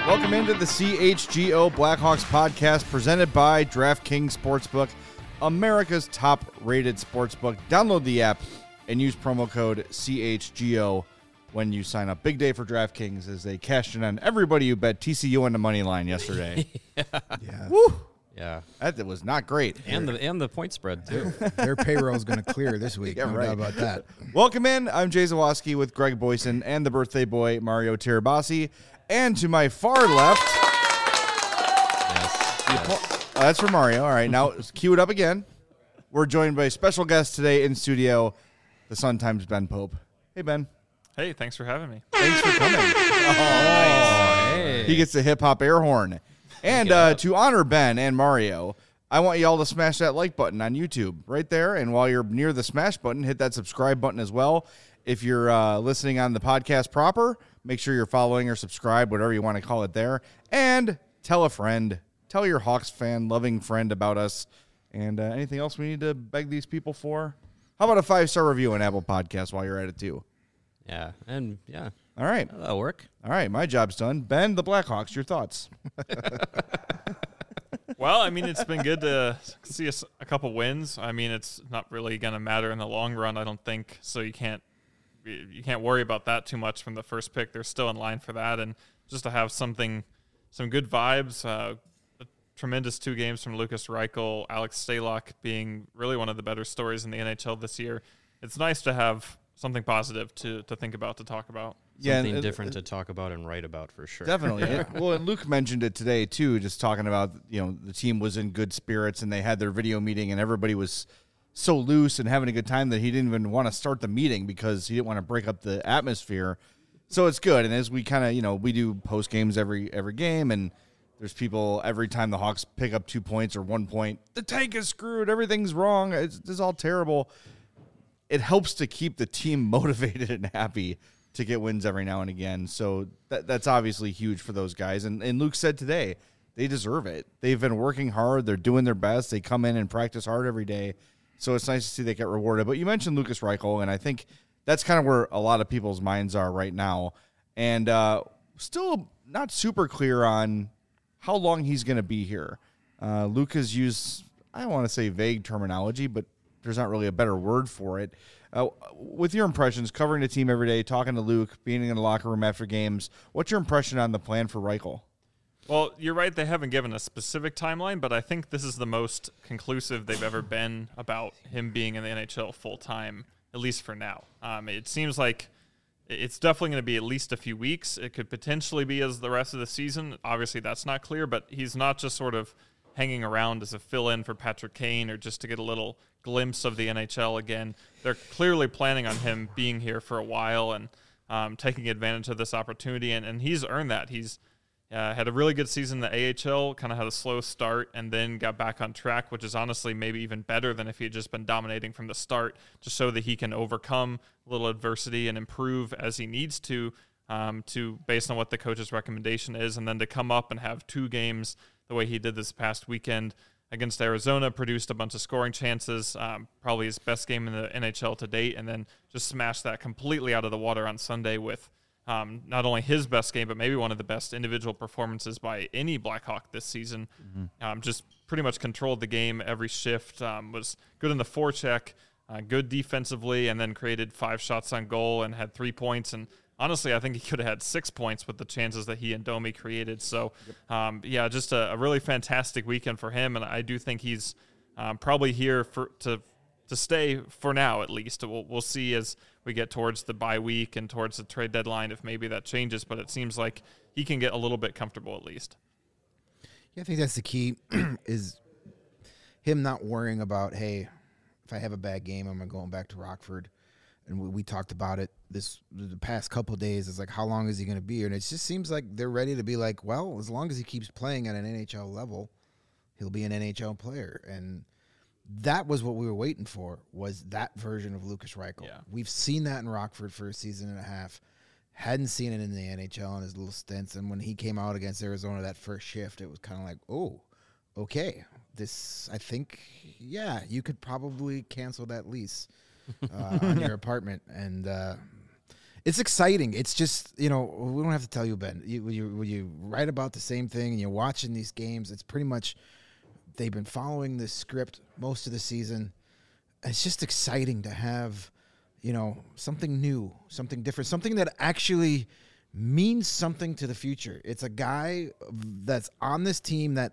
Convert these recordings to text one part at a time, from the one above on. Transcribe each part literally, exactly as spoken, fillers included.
Welcome into the C H G O Blackhawks podcast presented by DraftKings Sportsbook, America's top-rated sportsbook. Download the app and use promo code C H G O when you sign up. Big day for DraftKings as they cashed in on everybody who bet T C U on the money line yesterday. yeah. yeah. Woo! Yeah. That was not great. And the and the point spread, too. Their payroll is going to clear this week. Yeah, no right. doubt about that. Welcome in. I'm Jay Zawoski with Greg Boyson and the birthday boy, Mario Tirabassi. And to my far left... Yes. yes. Oh, that's for Mario. All right, now cue it up again. We're joined by a special guest today in studio, the Sun Times Ben Pope. Hey, Ben. Hey, thanks for having me. Thanks for coming. Oh, nice. Hey. He gets the hip-hop air horn. And uh, to honor Ben and Mario, I want you all to smash that like button on YouTube right there. And while you're near the smash button, hit that subscribe button as well. If you're uh, listening on the podcast proper, make sure you're following or subscribe, whatever you want to call it there. And tell a friend. Tell your Hawks fan, loving friend about us. And uh, anything else we need to beg these people for? How about a five-star review on Apple Podcasts while you're at it, too? Yeah, and yeah. All right. That'll work. All right, my job's done. Ben, the Blackhawks, your thoughts? Well, I mean, it's been good to see a, a couple wins. I mean, it's not really going to matter in the long run, I don't think. So you can't you can't worry about that too much from the first pick. They're still in line for that, and just to have something, some good vibes. Uh, a tremendous two games from Lukas Reichel, Alex Stalock being really one of the better stories in the N H L this year. It's nice to have something positive to to think about, to talk about. Something and, different uh, to talk about and write about for sure. Definitely. Yeah. Well, and Luke mentioned it today, too, just talking about, you know, the team was in good spirits and they had their video meeting and everybody was so loose and having a good time that he didn't even want to start the meeting because he didn't want to break up the atmosphere. So it's good. And as we kind of, you know, we do post games every every game, and there's people every time the Hawks pick up two points or one point, the tank is screwed, everything's wrong, it's, it's all terrible. It helps to keep the team motivated and happy to get wins every now and again. So that, that's obviously huge for those guys. And, and Luke said today, they deserve it. They've been working hard. They're doing their best. They come in and practice hard every day. So it's nice to see they get rewarded. But you mentioned Lukas Reichel, and I think that's kind of where a lot of people's minds are right now. And uh, still not super clear on how long he's going to be here. Uh, Luke has used, I don't want to say vague terminology, but there's not really a better word for it. Uh, with your impressions, covering the team every day, talking to Luke, being in the locker room after games, what's your impression on the plan for Reichel? Well, you're right. They haven't given a specific timeline, but I think this is the most conclusive they've ever been about him being in the N H L full time, at least for now. Um, it seems like it's definitely going to be at least a few weeks. It could potentially be as the rest of the season. Obviously, that's not clear, but he's not just sort of hanging around as a fill-in for Patrick Kane or just to get a little glimpse of the N H L again. They're clearly planning on him being here for a while and um, taking advantage of this opportunity, and, and he's earned that. He's uh, had a really good season in the A H L, kind of had a slow start, and then got back on track, which is honestly maybe even better than if he had just been dominating from the start, to show that he can overcome a little adversity and improve as he needs to, um, to based on what the coach's recommendation is, and then to come up and have two games the way he did this past weekend against Arizona, produced a bunch of scoring chances, um, probably his best game in the N H L to date, and then just smashed that completely out of the water on Sunday with um, not only his best game, but maybe one of the best individual performances by any Blackhawk this season. Mm-hmm. Um, just pretty much controlled the game every shift, um, was good in the forecheck, uh, good defensively, and then created five shots on goal and had three points. And honestly, I think he could have had six points with the chances that he and Domi created. So, um, yeah, just a, a really fantastic weekend for him, and I do think he's um, probably here for to to stay for now at least. We'll, we'll see as we get towards the bye week and towards the trade deadline if maybe that changes, but it seems like he can get a little bit comfortable at least. Yeah, I think that's the key is him not worrying about, hey, if I have a bad game, I'm going back to Rockford. And we, we talked about it this the past couple of days. It's like, how long is he going to be here? And it just seems like they're ready to be like, well, as long as he keeps playing at an N H L level, he'll be an N H L player. And that was what we were waiting for, was that version of Lukas Reichel. Yeah. We've seen that in Rockford for a season and a half. Hadn't seen it in the N H L in his little stints. And when he came out against Arizona that first shift, it was kind of like, oh, okay. This, I think, yeah, you could probably cancel that lease uh, on your apartment. And uh, it's exciting. It's just, you know, we don't have to tell you, Ben. You, when, you, when you write about the same thing and you're watching these games, it's pretty much they've been following this script most of the season. It's just exciting to have, you know, something new, something different, something that actually means something to the future. It's a guy that's on this team that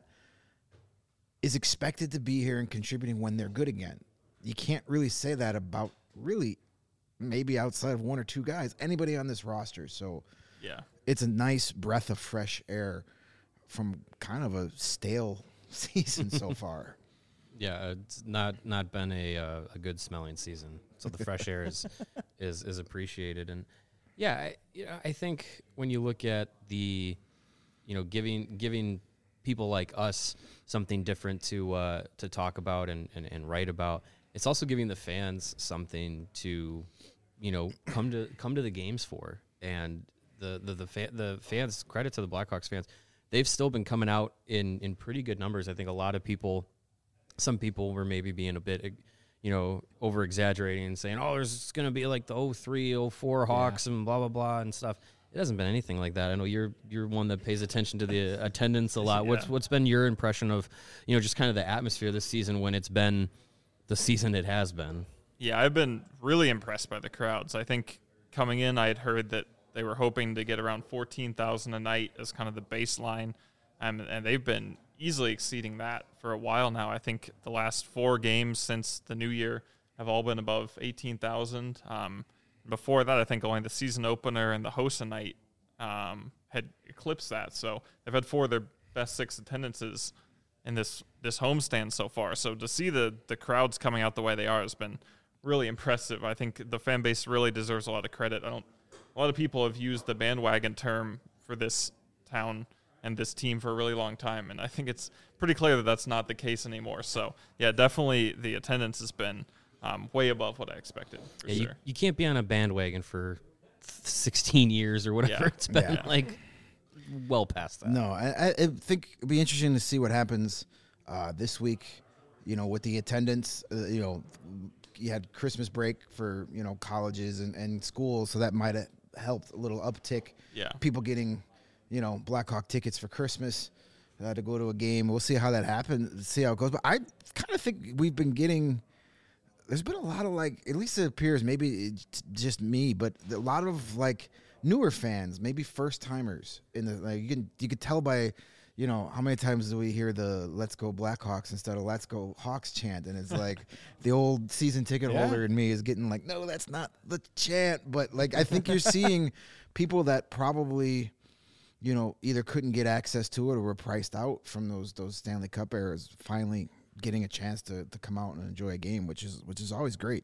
is expected to be here and contributing when they're good again. You can't really say that about really maybe outside of one or two guys, anybody on this roster. So yeah, it's a nice breath of fresh air from kind of a stale season so far. Yeah, it's not not been a uh, a good smelling season, so the fresh air is is is appreciated. And yeah, I, you know, I think when you look at the, you know, giving giving people like us something different to uh, to talk about and, and, and write about, it's also giving the fans something to, you know, come to come to the games for. And the the the, fa- the fans, credit to the Blackhawks fans, they've still been coming out in in pretty good numbers. I think a lot of people. Some people were maybe being a bit, you know, over exaggerating and saying, oh, there's going to be like the oh three, oh four Hawks yeah. and blah, blah, blah and stuff. It hasn't been anything like that. I know you're you're one that pays attention to the attendance a lot. Yeah. What's What's been your impression of, you know, just kind of the atmosphere this season when it's been the season it has been? Yeah, I've been really impressed by the crowds. I think coming in, I had heard that they were hoping to get around fourteen thousand a night as kind of the baseline, um, and they've been easily exceeding that for a while now. I think the last four games since the new year have all been above eighteen thousand. Um, before that, I think only the season opener and the Hossa night um, had eclipsed that. So they've had four of their best six attendances in this this homestand so far. So to see the the crowds coming out the way they are has been really impressive. I think the fan base really deserves a lot of credit. I don't. A lot of people have used the bandwagon term for this town and this team for a really long time, and I think it's pretty clear that that's not the case anymore. So, yeah, definitely the attendance has been um, way above what I expected, for yeah, sure. You, you can't be on a bandwagon for sixteen years or whatever yeah. it's been, yeah. like, well past that. No, I, I think it'd be interesting to see what happens uh, this week, you know, with the attendance. Uh, you know, you had Christmas break for, you know, colleges and, and schools, so that might have helped a little uptick. Yeah. People getting, you know, Blackhawk tickets for Christmas uh, to go to a game. We'll see how that happens, see how it goes. But I kind of think we've been getting, there's been a lot of, like, at least it appears, maybe it's just me, but a lot of, like, newer fans, maybe first-timers. in the like You can you could tell by, you know, how many times do we hear the Let's Go Blackhawks instead of Let's Go Hawks chant? And it's like the old season ticket Yeah. holder in me is getting like, no, that's not the chant. But, like, I think you're seeing people that probably – you know, either couldn't get access to it or were priced out from those those Stanley Cup eras, finally getting a chance to, to come out and enjoy a game, which is which is always great.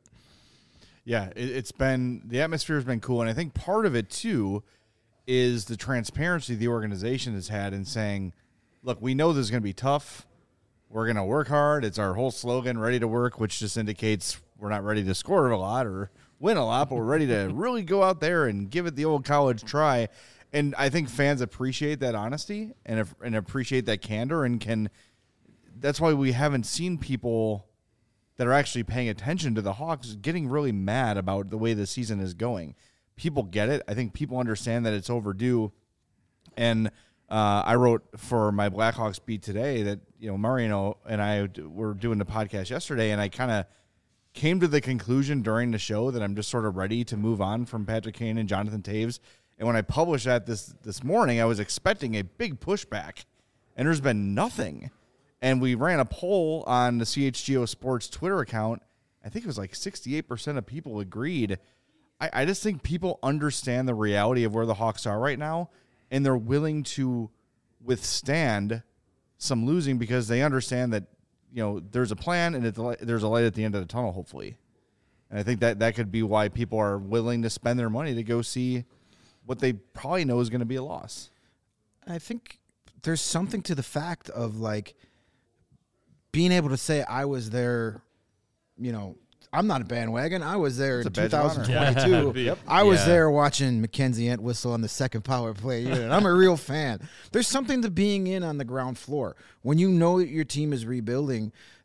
Yeah, it, it's been, the atmosphere has been cool, and I think part of it, too, is the transparency the organization has had in saying, look, we know this is going to be tough. We're going to work hard. It's our whole slogan, ready to work, which just indicates we're not ready to score a lot or win a lot, but we're ready to really go out there and give it the old college try. And I think fans appreciate that honesty and and appreciate that candor, and can. That's why we haven't seen people that are actually paying attention to the Hawks getting really mad about the way the season is going. People get it. I think people understand that it's overdue. And uh, I wrote for my Blackhawks beat today that, you know, Mariano and I were doing the podcast yesterday, and I kind of came to the conclusion during the show that I'm just sort of ready to move on from Patrick Kane and Jonathan Toews. And when I published that this this morning, I was expecting a big pushback, and there's been nothing. And we ran a poll on the C H G O Sports Twitter account. I think it was like sixty-eight percent of people agreed. I, I just think people understand the reality of where the Hawks are right now, and they're willing to withstand some losing because they understand that, you know, there's a plan and it, there's a light at the end of the tunnel, hopefully. And I think that that could be why people are willing to spend their money to go see what they probably know is going to be a loss. I think there's something to the fact of, like, being able to say I was there, you know, I'm not a bandwagon. I was there It's in a badge of honor. twenty twenty-two. Yeah. Yep. I was Yeah. there watching Mackenzie Entwistle on the second power play unit. I'm a real fan. There's something to being in on the ground floor. When you know that your team is rebuilding,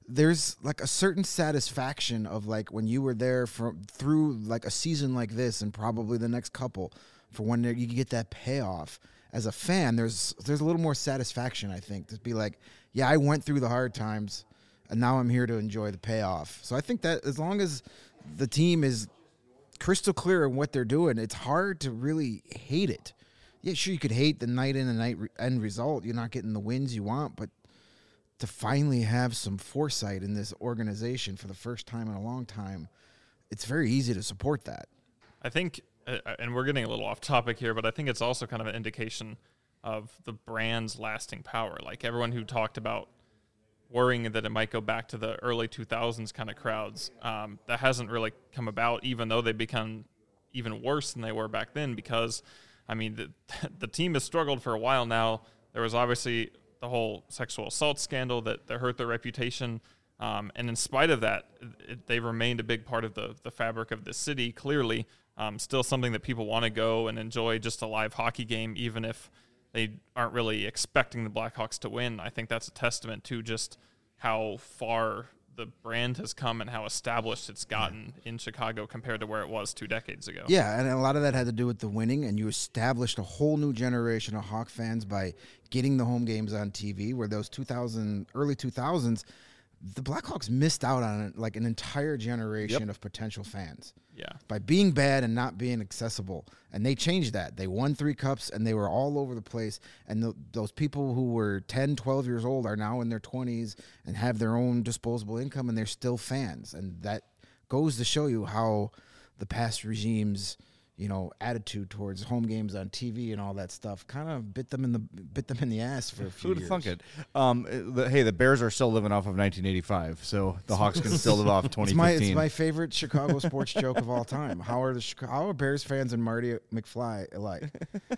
there's like a certain satisfaction of like when you were there for through like a season like this and probably the next couple for when you get that payoff as a fan. There's there's a little more satisfaction, I think, to be like, yeah, I went through the hard times and now I'm here to enjoy the payoff. So I think that as long as the team is crystal clear in what they're doing, it's hard to really hate it. Yeah, sure, you could hate the night in and night re- end result. You're not getting the wins you want, but to finally have some foresight in this organization for the first time in a long time, it's very easy to support that. I think, uh, and we're getting a little off topic here, but I think it's also kind of an indication of the brand's lasting power. Like everyone who talked about worrying that it might go back to the early two thousands kind of crowds, um, that hasn't really come about, even though they've become even worse than they were back then because, I mean, the, the team has struggled for a while now. There was obviously the whole sexual assault scandal that, that hurt their reputation. Um, and in spite of that, it, they remained a big part of the, the fabric of the city, clearly. Um, still something that people want to go and enjoy, just a live hockey game, even if they aren't really expecting the Blackhawks to win. I think that's a testament to just how far the brand has come and how established it's gotten in Chicago compared to where it was two decades ago. Yeah, and a lot of that had to do with the winning, and you established a whole new generation of Hawk fans by getting the home games on T V, where those two thousand, early two thousands, the Blackhawks missed out on like an entire generation Yep. of potential fans. Yeah. By being bad and not being accessible. And they changed that. They won three cups, and they were all over the place. And the, those people who were ten, twelve years old are now in their twenties and have their own disposable income, and they're still fans. And that goes to show you how the past regime's, you know, attitude towards home games on T V and all that stuff kind of bit them in the bit them in the ass for a few Who'd have years. thunk it? Um, the, hey, the Bears are still living off of nineteen eighty-five, so the Hawks can still live off twenty It's my, fifteen. it's my favorite Chicago sports joke of all time. How are the Chica- how are Bears fans and Marty McFly alike?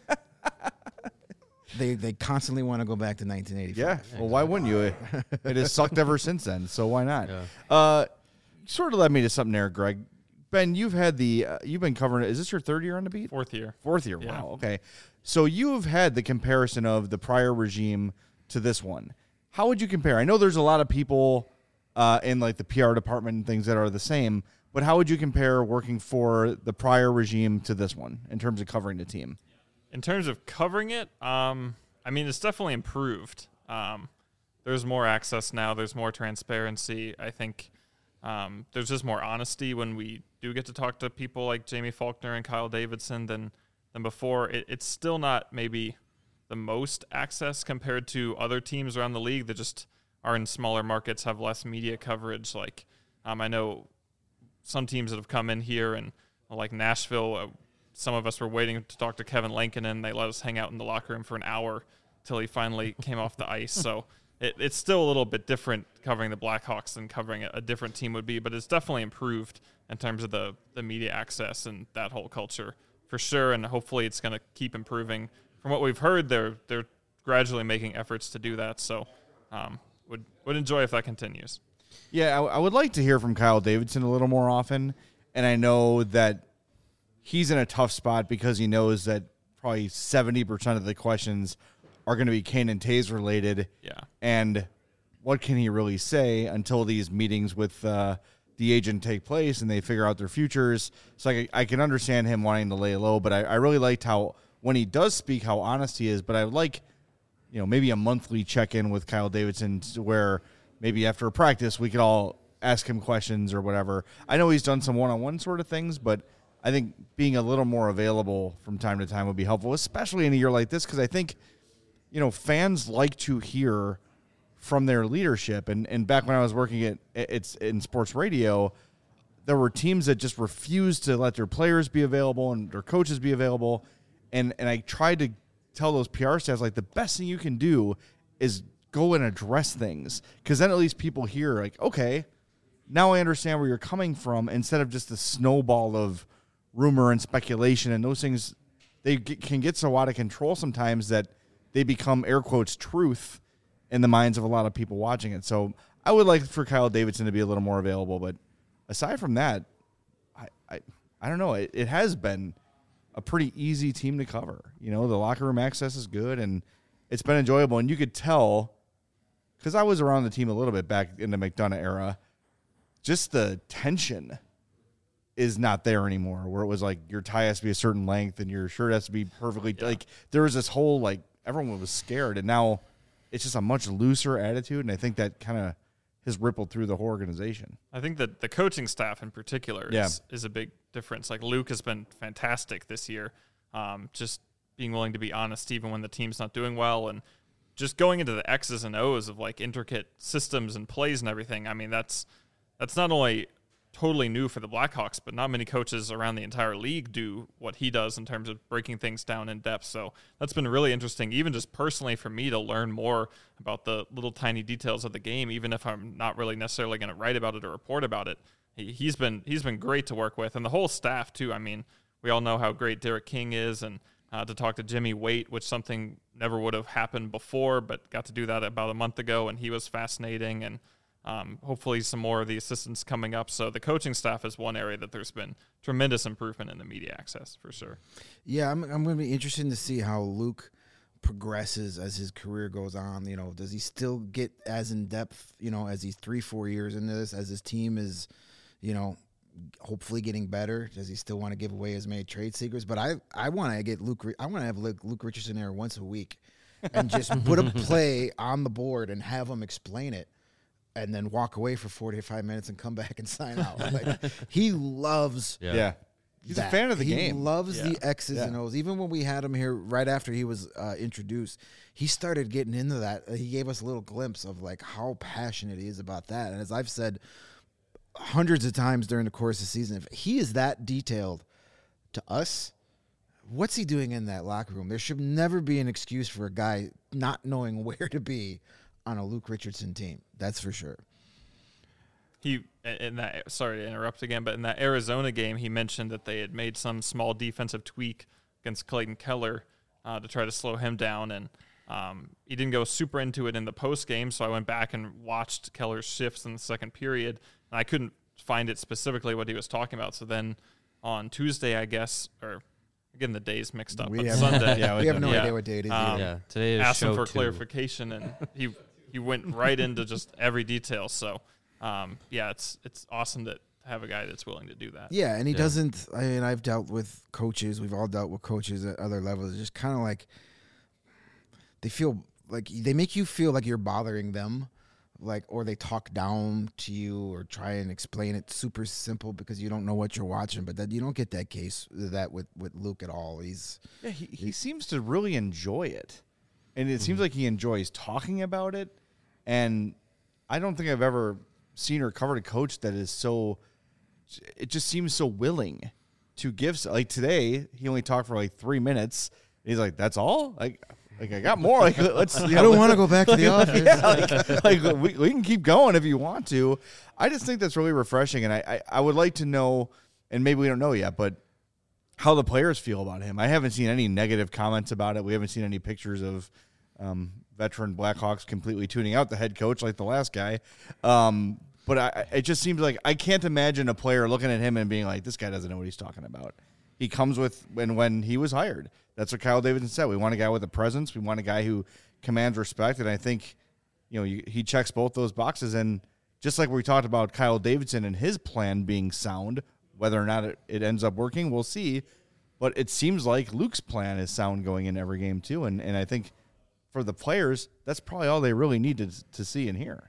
they they constantly want to go back to nineteen eighty-five. Yeah. Well, why wouldn't you? It, it has sucked ever since then, so why not? Yeah. Uh, sort of led me to something there, Greg. Ben, you've had the uh, you've been covering it. Is this your third year on the beat? Fourth year. Fourth year. Yeah. Wow. Okay. So you've had the comparison of the prior regime to this one. How would you compare? I know there's a lot of people uh, in like the P R department and things that are the same, but how would you compare working for the prior regime to this one in terms of covering the team? In terms of covering it, um, I mean, it's definitely improved. Um, there's more access now. There's more transparency. I think um, there's just more honesty when we do get to talk to people like Jamie Faulkner and Kyle Davidson than than before. It, it's still not maybe the most access compared to other teams around the league that just are in smaller markets, have less media coverage. Like um, I know some teams that have come in here and like Nashville, uh, some of us were waiting to talk to Kevin Lankinen. They let us hang out in the locker room for an hour till he finally came off the ice. So it, it's still a little bit different covering the Blackhawks than covering a, a different team would be, but it's definitely improved in terms of the, the media access and that whole culture for sure. And hopefully it's going to keep improving. From what we've heard, they're they're gradually making efforts to do that. So um, would would enjoy if that continues. Yeah, I, I would like to hear from Kyle Davidson a little more often. And I know that he's in a tough spot because he knows that probably seventy percent of the questions are going to be Kane and Tays related. Yeah. And what can he really say until these meetings with uh, the agent take place and they figure out their futures? So I, I can understand him wanting to lay low, but I, I really liked how when he does speak, how honest he is. But I would like, you know, maybe a monthly check-in with Kyle Davidson where maybe after a practice we could all ask him questions or whatever. I know he's done some one-on-one sort of things, but I think being a little more available from time to time would be helpful, especially in a year like this, because I think, you know, fans like to hear from their leadership. And and back when I was working at it's in sports radio, there were teams that just refused to let their players be available and their coaches be available. And and I tried to tell those P R staffs, like, the best thing you can do is go and address things, because then at least people hear, like, okay, now I understand where you're coming from, instead of just the snowball of rumor and speculation. And those things, they get, can get so out of control sometimes that they become, air quotes, truth in the minds of a lot of people watching it. So I would like for Kyle Davidson to be a little more available. But aside from that, I I, I don't know. It, it has been a pretty easy team to cover. You know, the locker room access is good, and it's been enjoyable. And you could tell because I was around the team a little bit back in the McDonough era, just the tension is not there anymore, where it was like your tie has to be a certain length and your shirt has to be perfectly yeah. like there was this whole like everyone was scared, and now it's just a much looser attitude, and I think that kind of has rippled through the whole organization. I think that the coaching staff in particular yeah. is, is a big difference. Like Luke has been fantastic this year, um, just being willing to be honest even when the team's not doing well, and just going into the X's and O's of like intricate systems and plays and everything. I mean, that's that's not only totally new for the Blackhawks, but not many coaches around the entire league do what he does in terms of breaking things down in depth. So that's been really interesting, even just personally for me, to learn more about the little tiny details of the game, even if I'm not really necessarily going to write about it or report about it. He, he's been he's been great to work with, and the whole staff too. I mean, we all know how great Derek King is, and uh, to talk to Jimmy Waite, which something never would have happened before, but got to do that about a month ago, and he was fascinating. And Um, hopefully some more of the assistants coming up. So the coaching staff is one area that there's been tremendous improvement in the media access for sure. Yeah, I'm I'm going to be interested to see how Luke progresses as his career goes on. You know, does he still get as in depth, you know, as he's three, four years into this, as his team is, you know, hopefully getting better? Does he still want to give away as many trade secrets? But I, I want to get Luke, I want to have Luke, Luke Richardson there once a week and just put a play on the board and have him explain it, and then walk away for forty-five minutes and come back and sign out. Like, he loves yeah. yeah. He's that. a fan of the he game. He loves yeah. the X's yeah. and O's. Even when we had him here right after he was uh, introduced, he started getting into that. He gave us a little glimpse of like how passionate he is about that. And as I've said hundreds of times during the course of the season, if he is that detailed to us, what's he doing in that locker room? There should never be an excuse for a guy not knowing where to be on a Luke Richardson team. That's for sure. He in that sorry to interrupt again, but in that Arizona game, he mentioned that they had made some small defensive tweak against Clayton Keller uh, to try to slow him down, and um, he didn't go super into it in the post game. So I went back and watched Keller's shifts in the second period, and I couldn't find it specifically what he was talking about. So then on Tuesday, I guess, or again the days mixed up, we but have, Sunday, yeah, we have no yeah. idea what day it is. Um, yeah, today is asked him show for two. clarification, and he he went right into just every detail. So. Um, yeah, it's it's awesome to have a guy that's willing to do that. Yeah, and he Yeah. doesn't. I mean, I've dealt with coaches. We've all dealt with coaches at other levels. It's just kind of like they feel like they make you feel like you're bothering them, like, or they talk down to you or try and explain it super simple because you don't know what you're watching. But that you don't get that case that with, with Luke at all. He's yeah, he, he seems to really enjoy it, and it mm-hmm. seems like he enjoys talking about it. And I don't think I've ever seen or covered a coach that is so, it just seems so willing to give. Like today, he only talked for like three minutes. He's like, "That's all? Like, like I got more. Like, let's." You know, I don't want to go back to the office. Yeah, like, like we, we can keep going if you want to. I just think that's really refreshing, and I, I, I would like to know, and maybe we don't know yet, but how the players feel about him. I haven't seen any negative comments about it. We haven't seen any pictures of um, veteran Blackhawks completely tuning out the head coach like the last guy. Um, But I, it just seems like I can't imagine a player looking at him and being like, this guy doesn't know what he's talking about. He comes with, when, when he was hired, that's what Kyle Davidson said. We want a guy with a presence. We want a guy who commands respect. And I think, you know, you, he checks both those boxes. And just like we talked about Kyle Davidson and his plan being sound, whether or not it, it ends up working, we'll see. But it seems like Luke's plan is sound going in every game too. And, and I think for the players, that's probably all they really need to, to see and hear.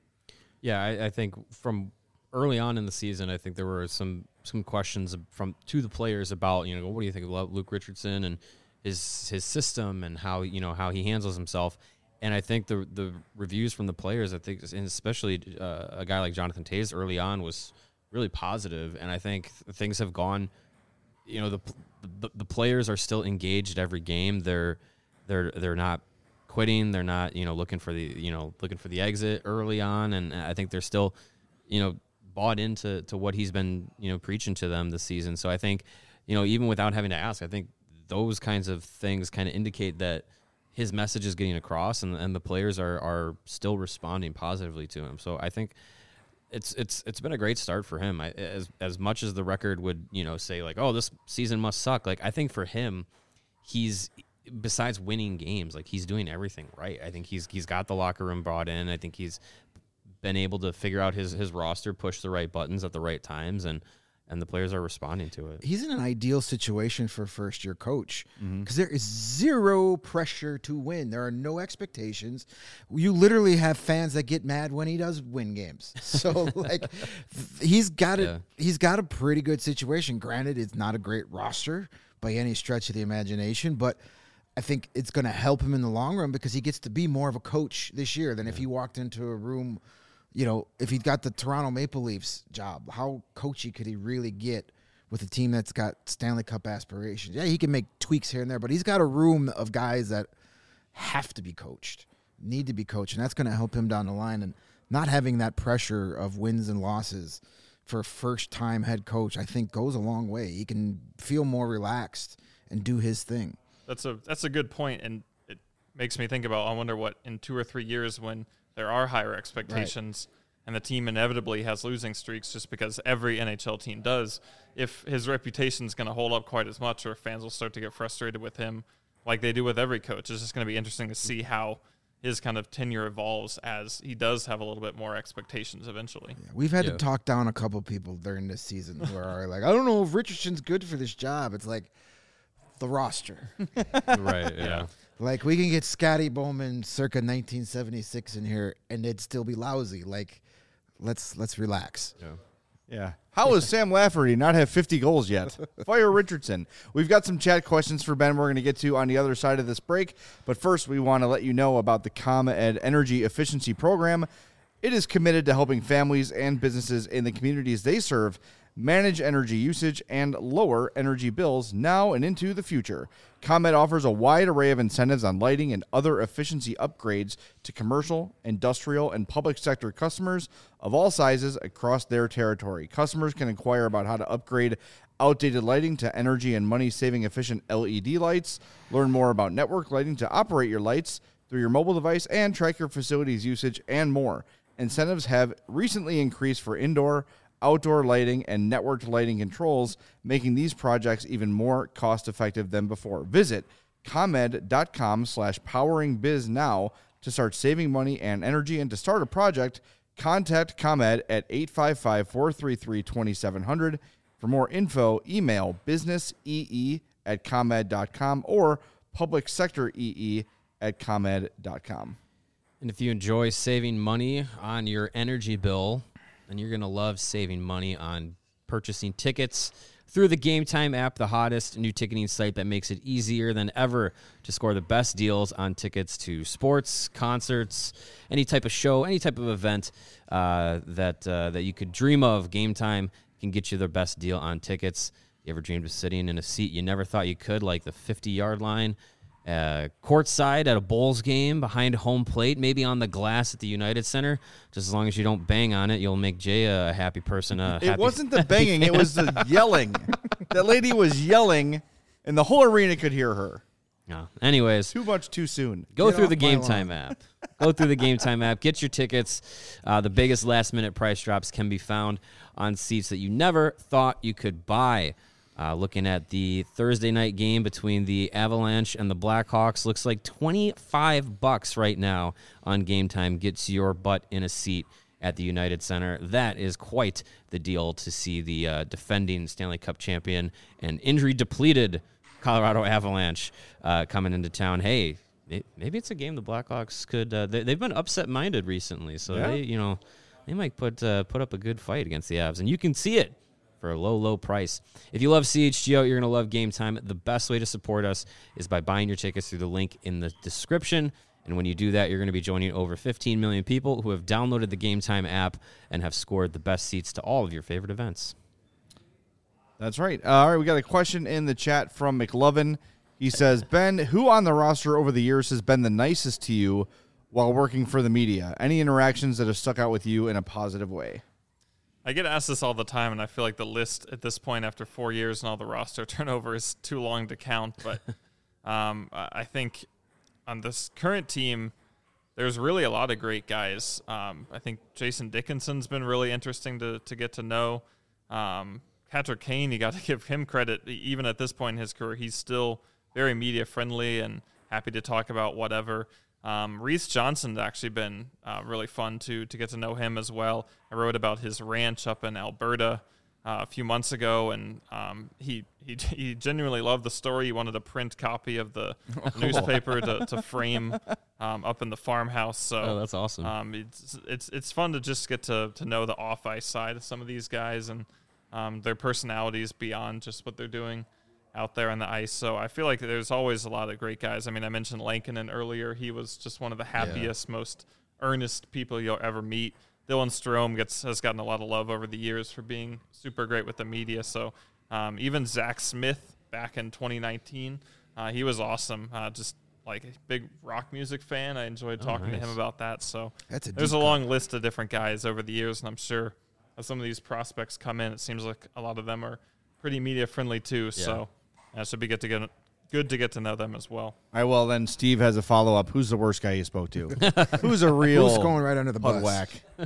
Yeah, I, I think from early on in the season, I think there were some some questions from to the players about, you know, what do you think about Luke Richardson and his his system and how, you know, how he handles himself. And I think the the reviews from the players, I think, and especially uh, a guy like Jonathan Toews early on, was really positive. And I think things have gone, you know, the the, the players are still engaged every game. They're they're they're not quitting. They're not, you know, looking for the, you know, looking for the exit early on. And I think they're still, you know, bought into to what he's been, you know, preaching to them this season. So I think, you know, even without having to ask, I think those kinds of things kind of indicate that his message is getting across, and, and the players are, are still responding positively to him. So I think it's it's it's been a great start for him. I, as as much as the record would, you know, say like, oh, this season must suck. Like, I think for him, he's besides winning games, like he's doing everything right. I think he's he's got the locker room brought in. I think he's been able to figure out his his roster, push the right buttons at the right times, and and the players are responding to it. He's in an ideal situation for a first-year coach because mm-hmm. there is zero pressure to win. There are no expectations. You literally have fans that get mad when he does win games. So, like, he's got it. Yeah. He's got a pretty good situation. Granted, it's not a great roster by any stretch of the imagination, but I think it's going to help him in the long run because he gets to be more of a coach this year than yeah. if he walked into a room. You know, if he'd got the Toronto Maple Leafs job, how coachy could he really get with a team that's got Stanley Cup aspirations? Yeah, he can make tweaks here and there, but he's got a room of guys that have to be coached, need to be coached, and that's going to help him down the line. And not having that pressure of wins and losses for a first-time head coach, I think, goes a long way. He can feel more relaxed and do his thing. That's a that's a good point, and it makes me think about, I wonder what in two or three years when – there are higher expectations, right. and the team inevitably has losing streaks just because every N H L team does. If his reputation is going to hold up quite as much, or fans will start to get frustrated with him like they do with every coach, it's just going to be interesting to see how his kind of tenure evolves as he does have a little bit more expectations eventually. Yeah, we've had yeah. to talk down a couple people during this season who are like, I don't know if Richardson's good for this job. It's like the roster. Right, yeah. yeah. Like, we can get Scotty Bowman circa nineteen seventy-six in here, and it'd still be lousy. Like, let's let's relax. Yeah. Yeah. How does Sam Lafferty not have fifty goals yet? Fire Richardson. We've got some chat questions for Ben we're going to get to on the other side of this break. But first, we want to let you know about the ComEd Energy Efficiency Program. It is committed to helping families and businesses in the communities they serve manage energy usage and lower energy bills now and into the future. ComEd offers a wide array of incentives on lighting and other efficiency upgrades to commercial, industrial, and public sector customers of all sizes across their territory. Customers can inquire about how to upgrade outdated lighting to energy and money-saving efficient L E D lights, learn more about network lighting to operate your lights through your mobile device, and track your facility's usage and more. Incentives have recently increased for indoor, outdoor lighting, and networked lighting controls, making these projects even more cost-effective than before. Visit ComEd.com slash poweringbiz now to start saving money and energy. And to start a project, contact ComEd at eight five five, four three three, two seven zero zero. For more info, email businessee at ComEd.com or publicsectoree at ComEd.com. And if you enjoy saving money on your energy bill, and you're going to love saving money on purchasing tickets through the Game Time app, the hottest new ticketing site that makes it easier than ever to score the best deals on tickets to sports, concerts, any type of show, any type of event uh, that uh, that you could dream of. Game Time can get you the best deal on tickets. You ever dreamed of sitting in a seat you never thought you could, like the fifty-yard line? Uh, courtside at a Bulls game, behind home plate, maybe on the glass at the United Center. Just as long as you don't bang on it, you'll make Jay a happy person. A it happy, wasn't the banging, it was the yelling. That lady was yelling, and the whole arena could hear her. No. Anyways, too much too soon. Go Get through off the my Game lawn. Time app. Go through the Game Time app. Get your tickets. Uh, the biggest last-minute price drops can be found on seats that you never thought you could buy. Uh, looking at the Thursday night game between the Avalanche and the Blackhawks, looks like twenty-five bucks right now on Game Time gets your butt in a seat at the United Center. That is quite the deal to see the uh, defending Stanley Cup champion and injury-depleted Colorado Avalanche uh, coming into town. Hey, it, maybe it's a game the Blackhawks could. Uh, they, they've been upset-minded recently, so Yeah. they, you know, they might put uh, put up a good fight against the Avs, and you can see it for a low, low price. If you love C H G O, you're going to love Game Time. The best way to support us is by buying your tickets through the link in the description. And when you do that, you're going to be joining over fifteen million people who have downloaded the Game Time app and have scored the best seats to all of your favorite events. That's right. Uh, all right, we got a question in the chat from McLovin. He says, Ben, who on the roster over the years has been the nicest to you while working for the media? Any interactions that have stuck out with you in a positive way? I get asked this all the time, and I feel like the list at this point after four years and all the roster turnover is too long to count. But um, I think on this current team, there's really a lot of great guys. Um, I think Jason Dickinson's been really interesting to to get to know. Um, Patrick Kane, you got to give him credit. Even at this point in his career, he's still very media friendly and happy to talk about whatever. Um, Reese Johnson's actually been uh, really fun to to get to know him as well. I wrote about his ranch up in Alberta uh, a few months ago, and um, he, he he genuinely loved the story. He wanted a print copy of the newspaper to, to frame um, up in the farmhouse. So Oh, that's awesome. um, it's it's it's fun to just get to to know the off ice side of some of these guys and um, their personalities beyond just what they're doing out there on the ice. So I feel like there's always a lot of great guys. I mean, I mentioned Lankinen earlier. He was just one of the happiest, yeah. most earnest people you'll ever meet. Dylan Strome gets has gotten a lot of love over the years for being super great with the media. So um, even Zach Smith back in twenty nineteen, uh, he was awesome. Uh, just like a big rock music fan. I enjoyed oh, talking nice. to him about that. So That's a there's a deep long cut. list of different guys over the years, and I'm sure as some of these prospects come in, it seems like a lot of them are pretty media friendly too. Yeah. So uh, should be good to get good to get to know them as well. All right, well, then Steve has a follow-up. Who's the worst guy you spoke to? Who's a real Who's going right under the pug bus? whack?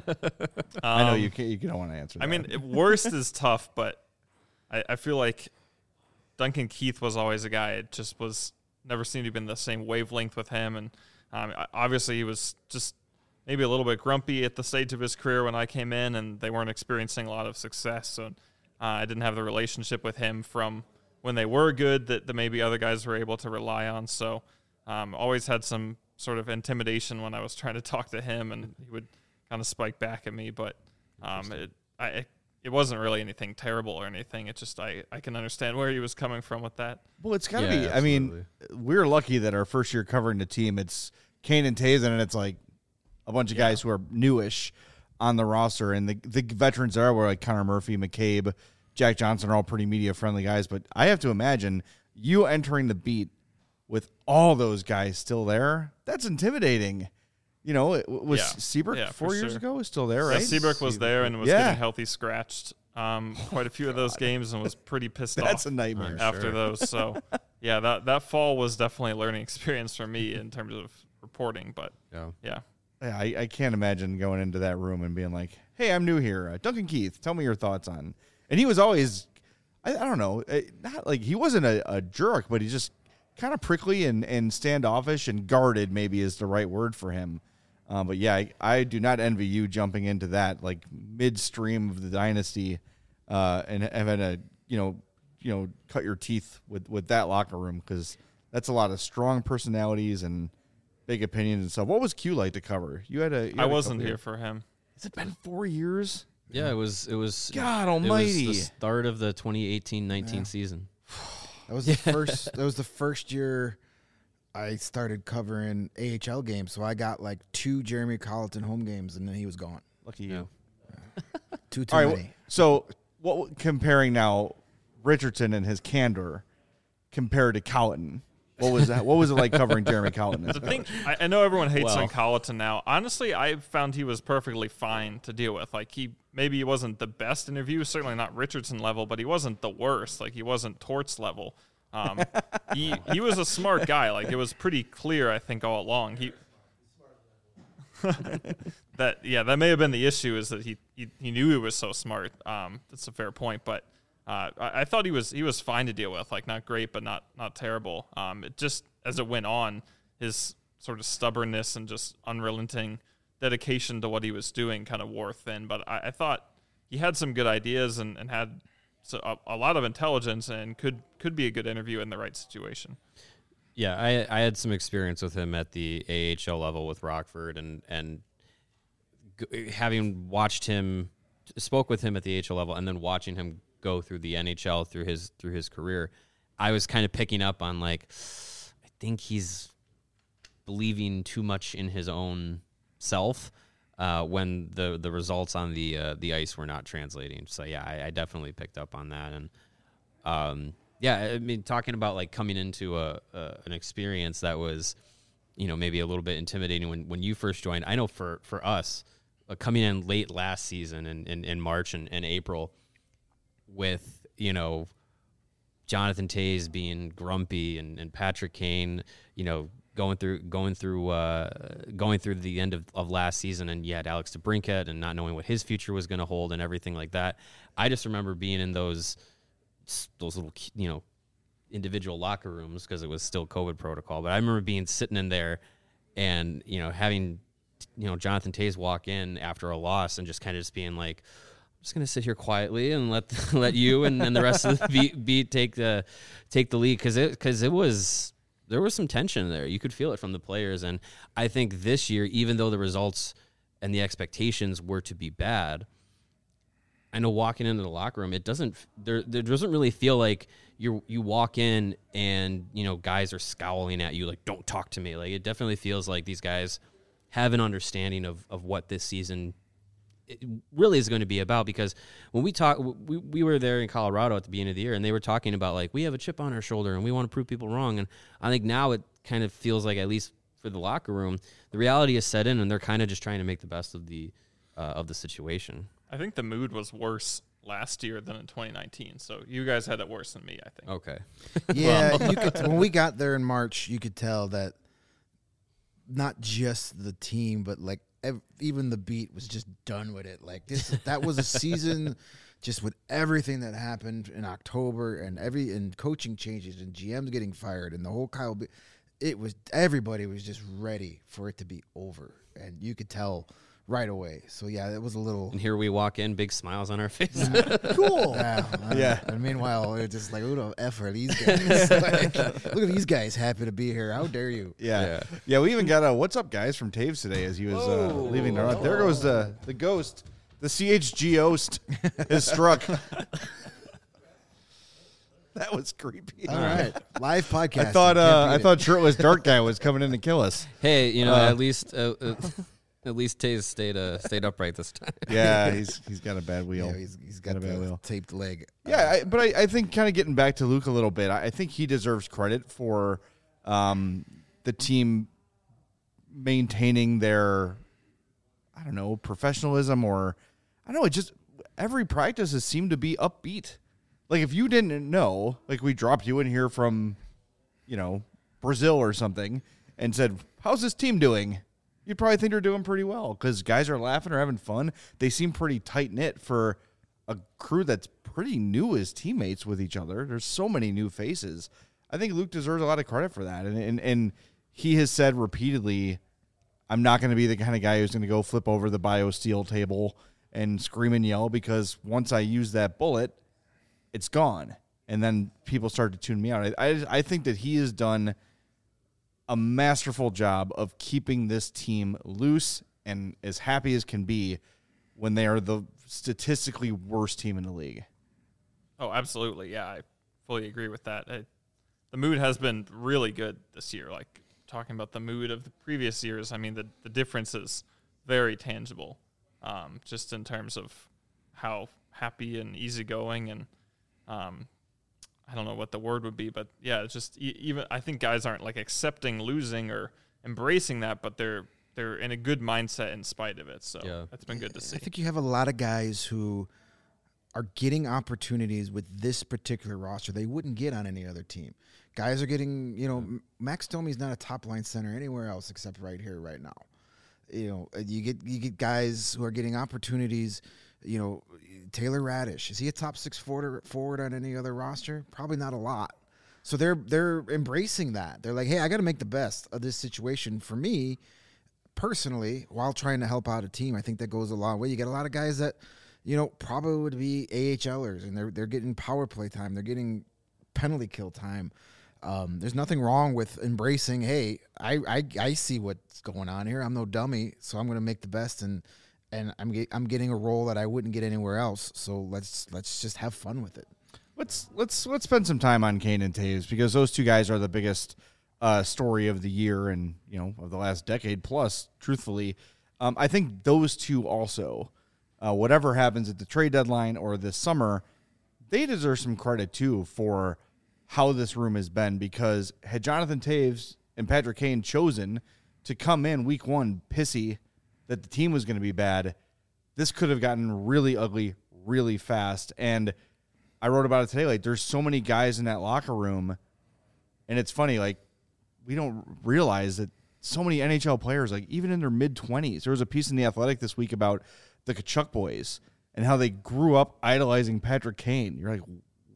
Um, I know you can't, you don't want to answer that. I mean, it- worst is tough, but I, I feel like Duncan Keith was always a guy. It just was never seemed to be in the same wavelength with him, and um, I- obviously he was just maybe a little bit grumpy at the stage of his career when I came in, and they weren't experiencing a lot of success. So uh, I didn't have the relationship with him from when they were good that, that maybe other guys were able to rely on. So um, always had some sort of intimidation when I was trying to talk to him, and he would kind of spike back at me. But um, it I it wasn't really anything terrible or anything. It just I, I can understand where he was coming from with that. well, it's got to Yeah, be. I mean, we're lucky that our first year covering the team, it's Kane and Tazen, and it's like a bunch of guys who are newish on the roster, and the the veterans there were like Connor Murphy, McCabe, Jack Johnson are all pretty media-friendly guys, but I have to imagine you entering the beat with all those guys still there, that's intimidating. You know, it, was Yeah. Seabrook Yeah, four for years sure. ago is still there, right? Yeah, Seabrook was there and was Yeah. getting healthy scratched um, quite a few of those games and was pretty pissed That's off a nightmare. I'm after sure. those. So, yeah, that, that fall was definitely a learning experience for me in terms of reporting, but Yeah. yeah. Yeah, I, I can't imagine going into that room and being like, hey, I'm new here. Uh, Duncan Keith, tell me your thoughts on. And he was always, I, I don't know, uh, not like he wasn't a, a jerk, but he's just kind of prickly and, and standoffish and guarded, maybe is the right word for him. Uh, but yeah, I, I do not envy you jumping into that like midstream of the dynasty uh, and having to, you know, you know, cut your teeth with, with that locker room, because that's a lot of strong personalities and big opinions and stuff. What was Q like to cover? You had a. You had I a wasn't couple here years. for him. Has it been four years? Yeah, it was. It was. God It almighty. was the start of the twenty eighteen nineteen Yeah. season. That was the first. That was the first year I started covering A H L games. So I got like two Jeremy Colleton home games, and then he was gone. Lucky Yeah. you. Two too All right. many. wh- So, what comparing now Richardson and his candor compared to Colleton? What was that? What was it like covering Jeremy Colleton? The thing, I, I know everyone hates Well. on Colleton now. Honestly, I found he was perfectly fine to deal with. Like he maybe he wasn't the best interview, certainly not Richardson level, but he wasn't the worst. Like he wasn't Torts level. Um, he he was a smart guy. Like it was pretty clear, I think, all along. He that yeah, that may have been the issue, is that he he, he knew he was so smart. Um, that's a fair point, but. Uh, I, I thought he was he was fine to deal with, like not great, but not not terrible. Um, it just as it went on, his sort of stubbornness and just unrelenting dedication to what he was doing kind of wore thin. But I, I thought he had some good ideas and, and had so a, a lot of intelligence and could could be a good interview in the right situation. Yeah, I I had some experience with him at the A H L level with Rockford, and and g- having watched him, spoke with him at the A H L level, and then watching him go through the N H L through his through his career, I was kind of picking up on like, I think he's believing too much in his own self uh, when the the results on the uh, the ice were not translating. So yeah, I, I definitely picked up on that, and um, yeah, I mean, talking about like coming into a, a an experience that was, you know, maybe a little bit intimidating when when you first joined. I know for for us, uh, coming in late last season in in, in March and, and April, with, you know, Jonathan Toews being grumpy and, and Patrick Kane, you know, going through going through uh, going through the end of, of last season, and you had Alex DeBrincat and not knowing what his future was going to hold and everything like that. I just remember being in those those little, you know, individual locker rooms because it was still COVID protocol. But I remember being sitting in there and, you know, having, you know, Jonathan Toews walk in after a loss and just kind of just being like, I'm just going to sit here quietly and let let you and, and the rest of the beat, beat take the take the lead because it, because it was there was some tension there. You could feel it from the players. And I think this year, even though the results and the expectations were to be bad, I know walking into the locker room, it doesn't there there doesn't really feel like you you walk in and, you know, guys are scowling at you like, don't talk to me. Like, it definitely feels like these guys have an understanding of, of what this season it really is going to be about. Because when we talk, we, we were there in Colorado at the beginning of the year, and they were talking about, like, we have a chip on our shoulder and we want to prove people wrong. And I think now it kind of feels like, at least for the locker room, the reality is set in, and they're kind of just trying to make the best of the uh, of the situation. I think the mood was worse last year than in twenty nineteen. So you guys had it worse than me, I think. Okay. Yeah, you could, when we got there in March, you could tell that not just the team, but like ev- even the beat was just done with it. Like this, that was a season just with everything that happened in October and every and coaching changes and G Ms getting fired and the whole Kyle. Be- it was everybody was just ready for it to be over, and you could tell right away. So yeah, it was a little. And here we walk in, big smiles on our faces. Cool. Yeah. uh, Yeah. And meanwhile, it's just like, who the F are these guys? Like, look at these guys happy to be here. How dare you? Yeah. Yeah. yeah, We even got a "What's up, guys" from Taves today as he was uh, Whoa. leaving. Our, there goes the the ghost, the C H G host is struck. That was creepy. All right, live podcast. I thought uh, I thought shirtless dark guy was coming in to kill us. Hey, you know, Uh, at least uh, uh, at least Taze stayed uh, stayed upright this time. Yeah, he's he's got a bad wheel. Yeah, he's, he's got Got a bad the wheel. taped leg. Yeah, I, but I, I think kind of getting back to Luke a little bit, I, I think he deserves credit for um, the team maintaining their, I don't know, professionalism or, I don't know, it just, every practice has seemed to be upbeat. Like, if you didn't know, like, we dropped you in here from, you know, Brazil or something and said, how's this team doing? You'd probably think they're doing pretty well because guys are laughing or having fun. They seem pretty tight-knit for a crew that's pretty new as teammates with each other. There's so many new faces. I think Luke deserves a lot of credit for that. And and, and he has said repeatedly, I'm not going to be the kind of guy who's going to go flip over the BioSteel table and scream and yell because once I use that bullet, it's gone. And then people start to tune me out. I, I, I think that he has done a masterful job of keeping this team loose and as happy as can be when they are the statistically worst team in the league. Oh, absolutely. Yeah, I fully agree with that. I, the mood has been really good this year. Like, talking about the mood of the previous years, I mean, the, the difference is very tangible, um, just in terms of how happy and easygoing and um, I don't know what the word would be, but yeah, it's just e- even I think guys aren't like accepting losing or embracing that, but they're they're in a good mindset in spite of it. So Yeah. that's been good to see. I think you have a lot of guys who are getting opportunities with this particular roster they wouldn't get on any other team. Guys are getting, you know, M- Max Domi's not a top line center anywhere else except right here, right now. You know, you get you get guys who are getting opportunities. You know, Taylor Radish, is he a top six forward forward on any other roster? Probably not a lot. So they're they're embracing that. They're like, hey, I got to make the best of this situation for me personally while trying to help out a team. I think that goes a long way. You get a lot of guys that, you know, probably would be AHLers, and they're they're getting power play time. They're getting penalty kill time. Um, there's nothing wrong with embracing, hey, I, I I see what's going on here. I'm no dummy, so I'm going to make the best, and and I'm get, I'm getting a role that I wouldn't get anywhere else. So let's let's just have fun with it. Let's let's let's spend some time on Kane and Taves because those two guys are the biggest uh, story of the year and, you know, of the last decade plus. Truthfully, um, I think those two also, uh, whatever happens at the trade deadline or this summer, they deserve some credit too for how this room has been. Because had Jonathan Taves and Patrick Kane chosen to come in week one pissy that the team was going to be bad, this could have gotten really ugly really fast. And I wrote about it today. Like, there's so many guys in that locker room, and it's funny. Like, we don't realize that so many N H L players, like even in their mid twenties, there was a piece in the Athletic this week about the Tkachuk boys and how they grew up idolizing Patrick Kane. You're like,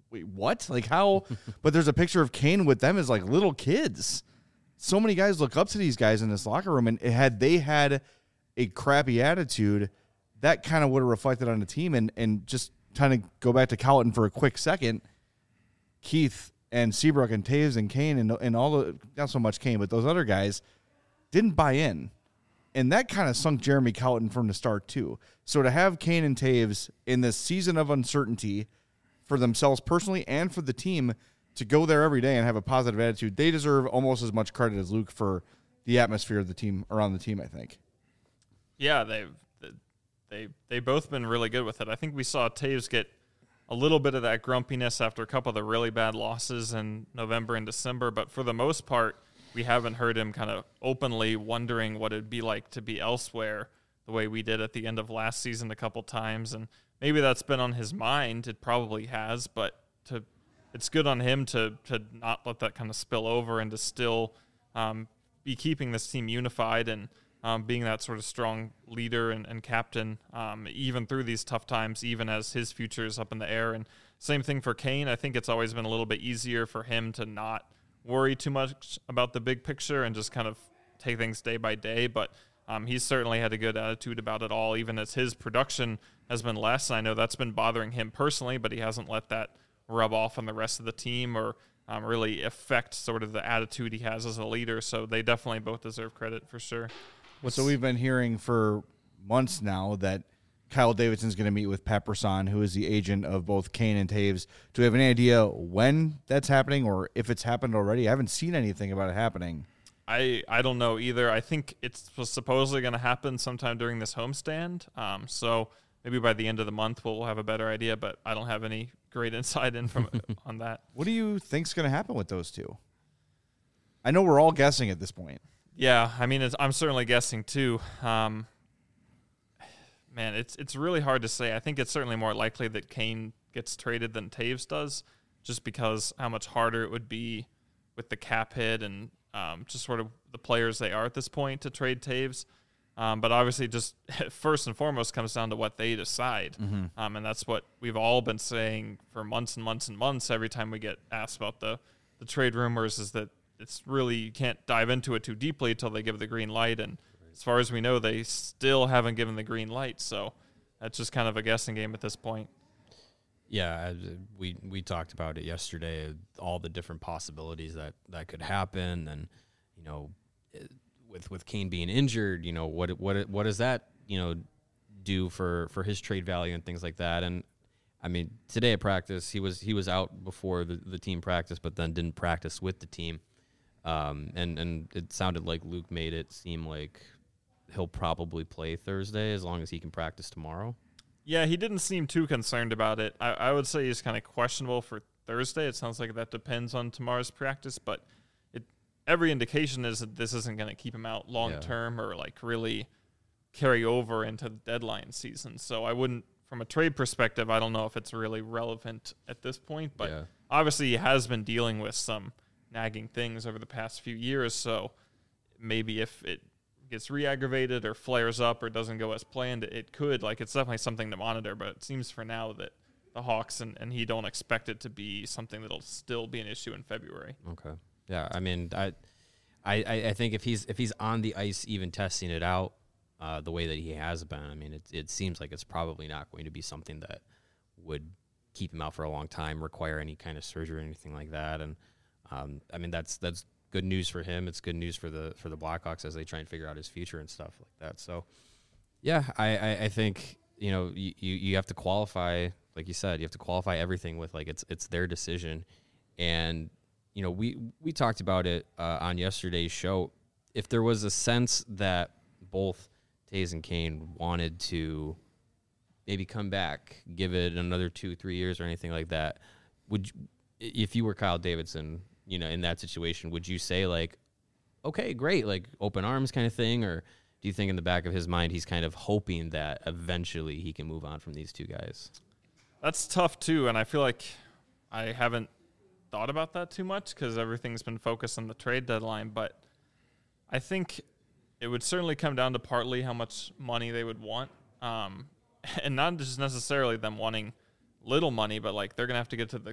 wait, what? Like how? But there's a picture of Kane with them as like little kids. So many guys look up to these guys in this locker room, and had they had a crappy attitude, that kind of would have reflected on the team. And and just trying to go back to Colleton for a quick second, Keith and Seabrook and Taves and Kane and and all the, not so much Kane, but those other guys didn't buy in. And that kind of sunk Jeremy Colleton from the start too. So to have Kane and Taves in this season of uncertainty for themselves personally and for the team to go there every day and have a positive attitude, they deserve almost as much credit as Luke for the atmosphere of the team around the team, I think. Yeah, they've they they both been really good with it. I think we saw Taves get a little bit of that grumpiness after a couple of the really bad losses in November and December, but for the most part, we haven't heard him kind of openly wondering what it'd be like to be elsewhere the way we did at the end of last season a couple times. And maybe that's been on his mind. It probably has, but to it's good on him to to not let that kind of spill over and to still um, be keeping this team unified and um, being that sort of strong leader and, and captain, um, even through these tough times, even as his future is up in the air. And same thing for Kane. I think it's always been a little bit easier for him to not worry too much about the big picture and just kind of take things day by day. But um, he's certainly had a good attitude about it all, even as his production has been less. And I know that's been bothering him personally, but he hasn't let that rub off on the rest of the team or um, really affect sort of the attitude he has as a leader. So they definitely both deserve credit for sure. So we've been hearing for months now that Kyle Davidson's going to meet with Pat Brisson, who is the agent of both Kane and Taves. Do we have any idea when that's happening or if it's happened already? I haven't seen anything about it happening. I, I don't know either. I think it's supposedly going to happen sometime during this homestand. Um, so maybe by the end of the month we'll have a better idea, but I don't have any great insight in from on that. What do you think's going to happen with those two? I know we're all guessing at this point. Yeah, I mean, it's, I'm certainly guessing too. Um, man, it's it's really hard to say. I think it's certainly more likely that Kane gets traded than Taves does, just because how much harder it would be with the cap hit and um, just sort of the players they are at this point to trade Taves. Um, but obviously, just first and foremost comes down to what they decide. Mm-hmm. Um, and that's what we've all been saying for months and months and months every time we get asked about the, the trade rumors is that it's really, you can't dive into it too deeply until they give the green light. And as far as we know, they still haven't given the green light. So that's just kind of a guessing game at this point. Yeah, we we talked about it yesterday, all the different possibilities that, that could happen. And, you know, with with Kane being injured, you know, what what what does that, you know, do for, for his trade value and things like that. And, I mean, today at practice, he was he was out before the, the team practice, but then didn't practice with the team. Um, and, and it sounded like Luke made it seem like he'll probably play Thursday as long as he can practice tomorrow. Yeah, he didn't seem too concerned about it. I, I would say he's kind of questionable for Thursday. It sounds like that depends on tomorrow's practice, but it every indication is that this isn't going to keep him out long term yeah. or like really carry over into the deadline season. So I wouldn't, from a trade perspective, I don't know if it's really relevant at this point, but yeah. obviously he has been dealing with some nagging things over the past few years. So maybe if it gets re-aggravated or flares up or doesn't go as planned, it could. Like, it's definitely something to monitor, but it seems for now that the Hawks and, and he don't expect it to be something that'll still be an issue in February. Okay. Yeah, I mean, I I, I think if he's if he's on the ice even testing it out uh, the way that he has been, I mean, it, it seems like it's probably not going to be something that would keep him out for a long time, require any kind of surgery or anything like that. And, um, I mean, that's that's good news for him. It's good news for the for the Blackhawks as they try and figure out his future and stuff like that. So, yeah, I, I, I think, you know, you, you have to qualify, like you said, you have to qualify everything with, like, it's it's their decision. And, you know, we, we talked about it uh, on yesterday's show. If there was a sense that both Taves and Kane wanted to maybe come back, give it another two, three years or anything like that, would you, if you were Kyle Davidson, you know, in that situation, would you say, like, okay, great, like, open arms kind of thing? Or do you think in the back of his mind he's kind of hoping that eventually he can move on from these two guys? That's tough, too, and I feel like I haven't thought about that too much because everything's been focused on the trade deadline, but I think it would certainly come down to partly how much money they would want, um, and not just necessarily them wanting little money, but, like, they're going to have to get to the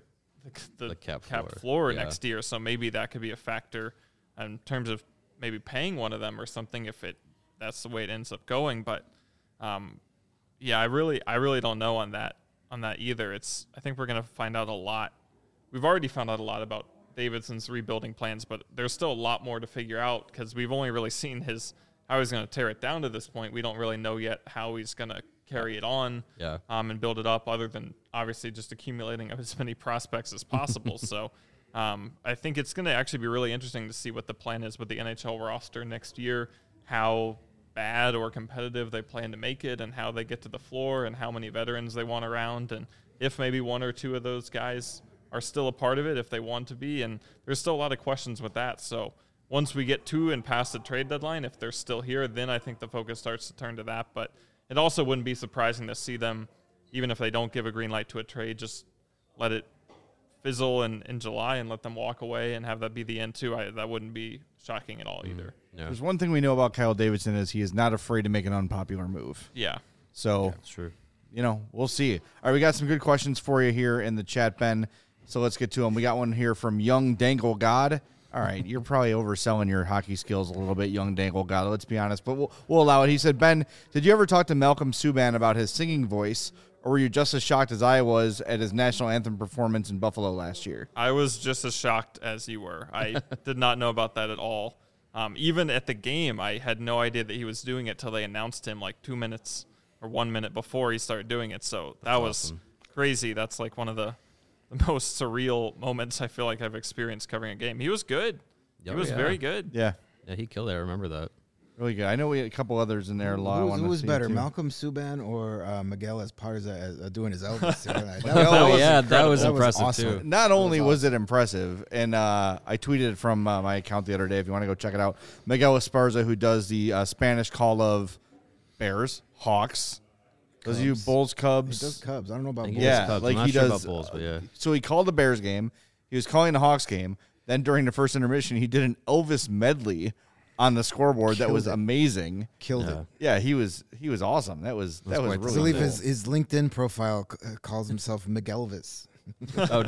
the, The cap cap floor. floor Yeah. next year. So maybe that could be a factor in terms of maybe paying one of them or something if it that's the way it ends up going. But um, yeah, I really I really don't know on that on that either. It's I think we're gonna find out a lot. We've already found out a lot about Davidson's rebuilding plans, but there's still a lot more to figure out because we've only really seen his how he's going to tear it down to this point. We don't really know yet how he's going to carry it on Yeah. um, and build it up, other than obviously just accumulating as many prospects as possible. So um, I think it's going to actually be really interesting to see what the plan is with the N H L roster next year, how bad or competitive they plan to make it, and how they get to the floor, and how many veterans they want around, and if maybe one or two of those guys are still a part of it if they want to be. And there's still a lot of questions with that. So once we get to and past the trade deadline, if they're still here, then I think the focus starts to turn to that. But it also wouldn't be surprising to see them, even if they don't give a green light to a trade, just let it fizzle in, in July and let them walk away and have that be the end too. I, that wouldn't be shocking at all either. Yeah. There's one thing we know about Kyle Davidson is he is not afraid to make an unpopular move. Yeah. So, That's true. you know, we'll see. All right, we got some good questions for you here in the chat, Ben. So let's get to them. We got one here from Young Dangle God. All right, you're probably overselling your hockey skills a little bit, Young Dangle God. Let's be honest, but we'll, we'll allow it. He said, Ben, did you ever talk to Malcolm Subban about his singing voice, or were you just as shocked as I was at his national anthem performance in Buffalo last year? I was just as shocked as you were. I did not know about that at all. Um, even at the game, I had no idea that he was doing it till they announced him like two minutes or one minute before he started doing it. So that That's was awesome. crazy. That's like one of the, the most surreal moments I feel like I've experienced covering a game. He was good. Oh, he was yeah. very good. Yeah, Yeah, he killed it. I remember that. really good. I know we had a couple others in there. Who, Law, I who was, wanted who to was see better, too. Malcolm Subban or uh, Miguel Esparza as, uh, doing his Elvis? that, Miguel- was, Oh, was yeah, that incredible. was That was impressive, awesome. too. Not only was was it impressive, and uh, I tweeted it from uh, my account the other day. If you want to go check it out, Miguel Esparza, who does the uh, Spanish call of Bears, Hawks, does you Cubs. Bulls, he Cubs. does Cubs. I don't know about I think Bulls. he does Yeah, Cubs. like I'm not he sure does. about Bulls, but yeah. So he called the Bears game. He was calling the Hawks game. Then during the first intermission, he did an Elvis medley on the scoreboard that Killed was it. amazing. Killed Yeah. it. Yeah, he was he was awesome. That was that was quite I really believe cool. his, his LinkedIn profile c- uh, calls himself Miguelvis. Oh,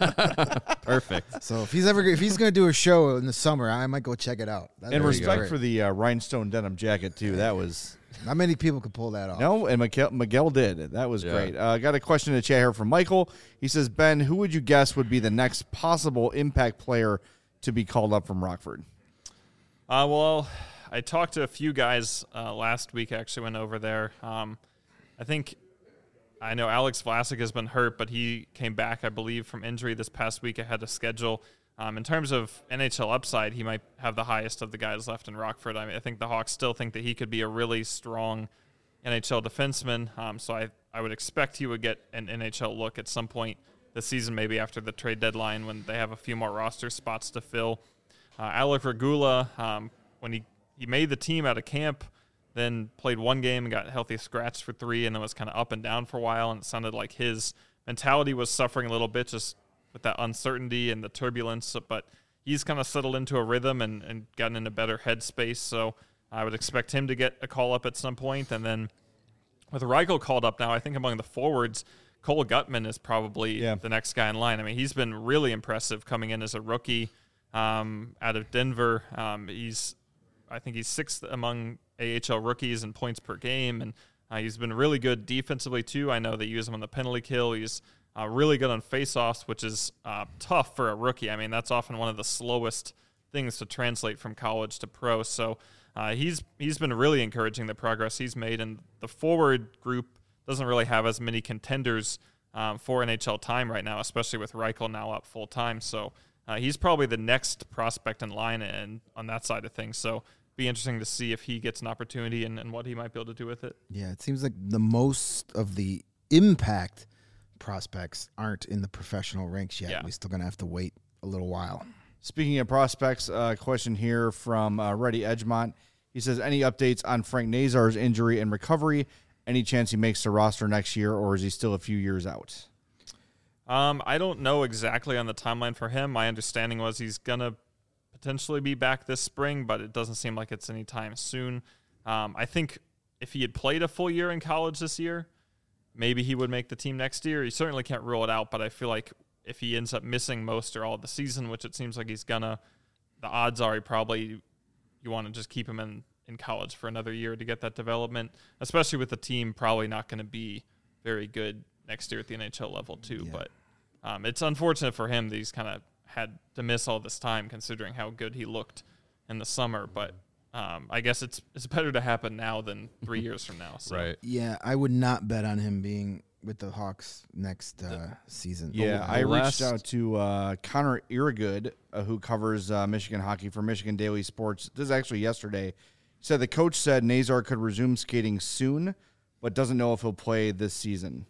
perfect. So if he's ever if he's gonna do a show in the summer, I might go check it out. That And would be respect great. for the uh, rhinestone denim jacket too. That was Not many people could pull that off. no, and Miguel, Miguel did. That was Yeah. great. Uh, got a question in the chat here from Michael. He says, Ben, who would you guess would be the next possible impact player to be called up from Rockford? Uh, well, I talked to a few guys uh, last week. I actually went over there. Um, I think I know Alex Vlasic has been hurt, but he came back, I believe, from injury this past week ahead of schedule. Um, in terms of N H L upside, he might have the highest of the guys left in Rockford. I mean, I think the Hawks still think that he could be a really strong N H L defenseman. Um, so I, I would expect he would get an N H L look at some point this season, maybe after the trade deadline when they have a few more roster spots to fill. Uh, Alec Regula, um, when he, he made the team out of camp, then played one game and got healthy scratched for three, and then was kind of up and down for a while, and it sounded like his mentality was suffering a little bit just with that uncertainty and the turbulence, but he's kind of settled into a rhythm and, and gotten in a better headspace, so I would expect him to get a call up at some point. And then with Reichel called up now, I think among the forwards, Cole Gutman is probably Yeah. the next guy in line. I mean, he's been really impressive coming in as a rookie um, out of Denver. Um, he's, I think he's sixth among A H L rookies in points per game, and uh, he's been really good defensively too. I know they use him on the penalty kill. He's uh, really good on faceoffs, which is uh, tough for a rookie. I mean, that's often one of the slowest things to translate from college to pro. So uh, he's he's been really encouraging the progress he's made, and the forward group doesn't really have as many contenders um, for N H L time right now, especially with Reichel now up full time. So uh, he's probably the next prospect in line and on that side of things. So be interesting to see if he gets an opportunity and, and what he might be able to do with it. Yeah, it seems like the most of the impact prospects aren't in the professional ranks yet. Yeah. We're still gonna have to wait a little while. Speaking of prospects, a uh, question here from uh, Reddy Edgemont. He says, any updates on Frank Nazar's injury and recovery? Any chance he makes the roster next year, or is he still a few years out? Um, I don't know exactly on the timeline for him. My understanding was he's going to potentially be back this spring, but it doesn't seem like it's anytime soon. Um, I think if he had played a full year in college this year, maybe he would make the team next year. You certainly can't rule it out, but I feel like if he ends up missing most or all of the season, which it seems like he's gonna, the odds are he probably you want to just keep him in, in college for another year to get that development, especially with the team probably not going to be very good next year at the N H L level too. Yeah. But um, it's unfortunate for him that he's kind of had to miss all this time considering how good he looked in the summer. But um, I guess it's it's better to happen now than three years from now. So. Right. Yeah, I would not bet on him being with the Hawks next uh, season. Yeah, the I last- reached out to uh, Connor Irrigood, uh, who covers uh, Michigan hockey for Michigan Daily Sports. This is actually yesterday. He said the coach said Nazar could resume skating soon, but doesn't know if he'll play this season.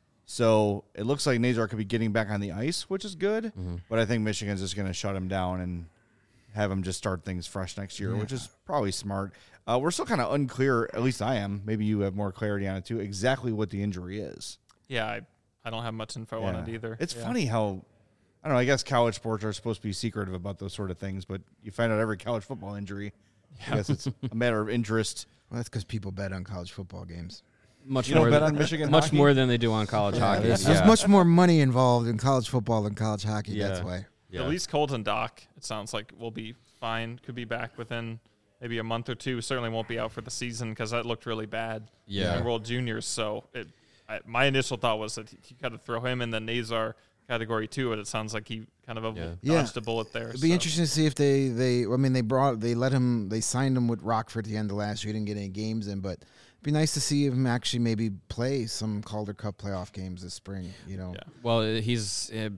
So it looks like Nazar could be getting back on the ice, which is good. Mm-hmm. But I think Michigan's just going to shut him down and have him just start things fresh next year, Yeah. which is probably smart. Uh, we're still kind of unclear, at least I am, maybe you have more clarity on it too, exactly what the injury is. Yeah, I, I don't have much info on it Yeah. either. It's Yeah. funny how, I don't know, I guess college sports are supposed to be secretive about those sort of things, but you find out every college football injury. I guess it's a matter of interest. Well, that's because people bet on college football games. Much You don't more bet than, on Michigan much hockey? more than they do on college hockey. There's, yeah. there's much more money involved in college football than college hockey. Yeah. That's why. Yeah. At least Colton Dock, it sounds like, will be fine. Could be back within maybe a month or two. Certainly won't be out for the season because that looked really bad Yeah. in World Juniors. So it, I, my initial thought was that you got to throw him in the Nazar category too, but it sounds like he kind of a, Yeah. Yeah. dodged a bullet there. It'd be so. interesting to see if they, they. I mean, they brought, they let him, they signed him with Rockford at the end of last year. He didn't get any games in, but it'd be nice to see him actually maybe play some Calder Cup playoff games this spring. You know, Yeah. Well, he's uh,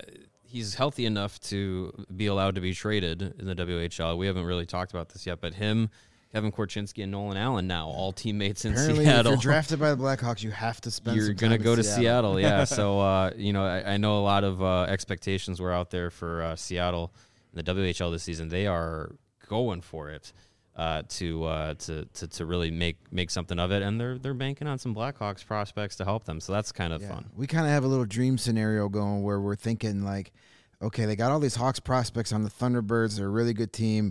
he's healthy enough to be allowed to be traded in the W H L. We haven't really talked about this yet, but him, Kevin Korchinski, and Nolan Allen now all teammates in apparently, Seattle. if you're drafted by the Blackhawks, you have to spend. You're some gonna time go in to Seattle. Seattle, yeah. So uh, you know, I, I know a lot of uh, expectations were out there for uh, Seattle in the W H L this season. They are going for it uh, to, uh, to to to really make make something of it, and they're they're banking on some Blackhawks prospects to help them. So that's kind of Yeah. fun. We kind of have a little dream scenario going where we're thinking like, okay, they got all these Hawks prospects on the Thunderbirds. They're a really good team.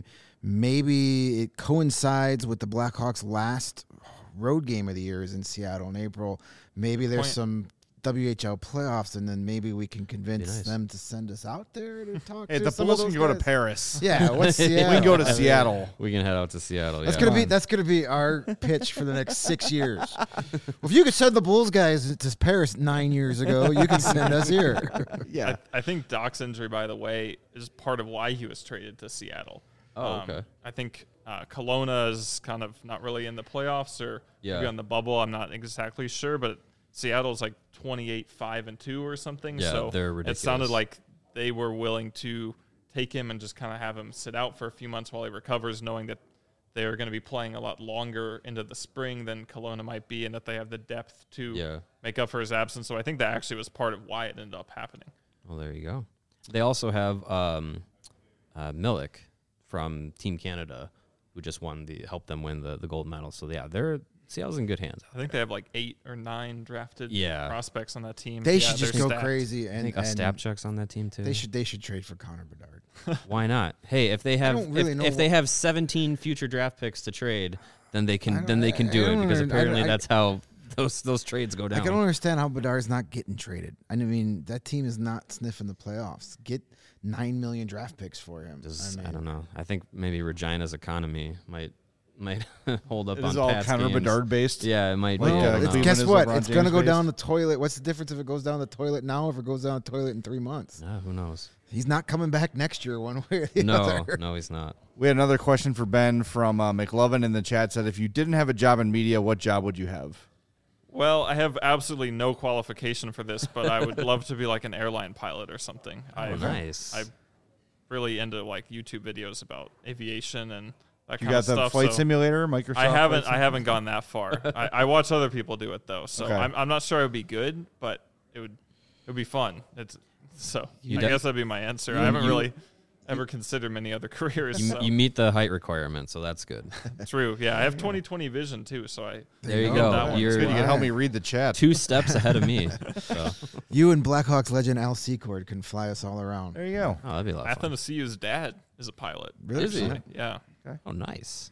Maybe it coincides with the Blackhawks' last road game of the year is in Seattle in April. Maybe there's Point. some W H L playoffs, and then maybe we can convince nice. them to send us out there to talk Hey, to the some Bulls of can those go to guys. Paris. Yeah, what's Seattle? We can go to I mean, Seattle. We can head out to Seattle. That's yeah. gonna be that's gonna be our pitch for the next six years. Well, if you could send the Bulls guys to Paris nine years ago, you can send us here. Yeah. I, I think Doc's injury, by the way, is part of why he was traded to Seattle. Oh, okay. I think uh, Kelowna is kind of not really in the playoffs or Yeah. maybe on the bubble. I'm not exactly sure, but Seattle's like twenty-eight five and two or something. Yeah, so they're it sounded ridiculous. like they were willing to take him and just kind of have him sit out for a few months while he recovers, knowing that they are going to be playing a lot longer into the spring than Kelowna might be, and that they have the depth to Yeah. make up for his absence. So I think that actually was part of why it ended up happening. Well, there you go. They also have um, uh, Milik from Team Canada, who just won the helped them win the, the gold medal. So yeah, they're Seattle's in good hands. I think they have like eight or nine drafted Yeah. prospects on that team. They Yeah, should just they're go stacked. crazy I and, think and Ostapchuk's on that team too. they should they should trade for Connor Bedard. Why not? Hey, if they have don't really if, know if they what- have seventeen future draft picks to trade, then they I can don't- then they can I- do I it don't because under- I- apparently I- that's how those those trades go down. I can don't understand how Bedard's not getting traded. I mean, that team is not sniffing the playoffs. Get nine million draft picks for him. Just- I, I, mean, don't know. I think maybe Regina's economy might might hold up It on is all Pat's Connor games. Bedard based. Yeah, it might Like, be. uh, I don't Well, it's, know. Cleveland guess is what? LeBron It's going to James go down the based. toilet. What's the difference if it goes down the toilet now or if it goes down the toilet in three months? No, who knows? He's not coming back next year one way or the No, other. no, he's not. We had another question for Ben from uh, McLovin in the chat. Said, if you didn't have a job in media, what job would you have? Well, I have absolutely no qualification for this, but I would love to be like an airline pilot or something. Oh, I, nice. I'm really into like YouTube videos about aviation and that You kind got of the stuff. flight so simulator, Microsoft. I haven't. Flight I haven't gone that far. I, I watch other people do it though, so Okay. I'm, I'm not sure it would be good, but it would. It would be fun. It's so. You I de- guess that'd be my answer. you- I haven't you- really ever considered many other careers. You, so. you meet the height requirement, so that's good. True. Yeah, I have twenty twenty vision too, so I. There you you go. go. That one's You're Good, you can help Alright. me read the chat. two steps ahead of me. So. You and Blackhawks legend Al Secord can fly us all around. There you go. Oh, that'd be a lot of fun. Athanasiu's dad is a pilot. Really? Is he? actually. Yeah. Oh, nice.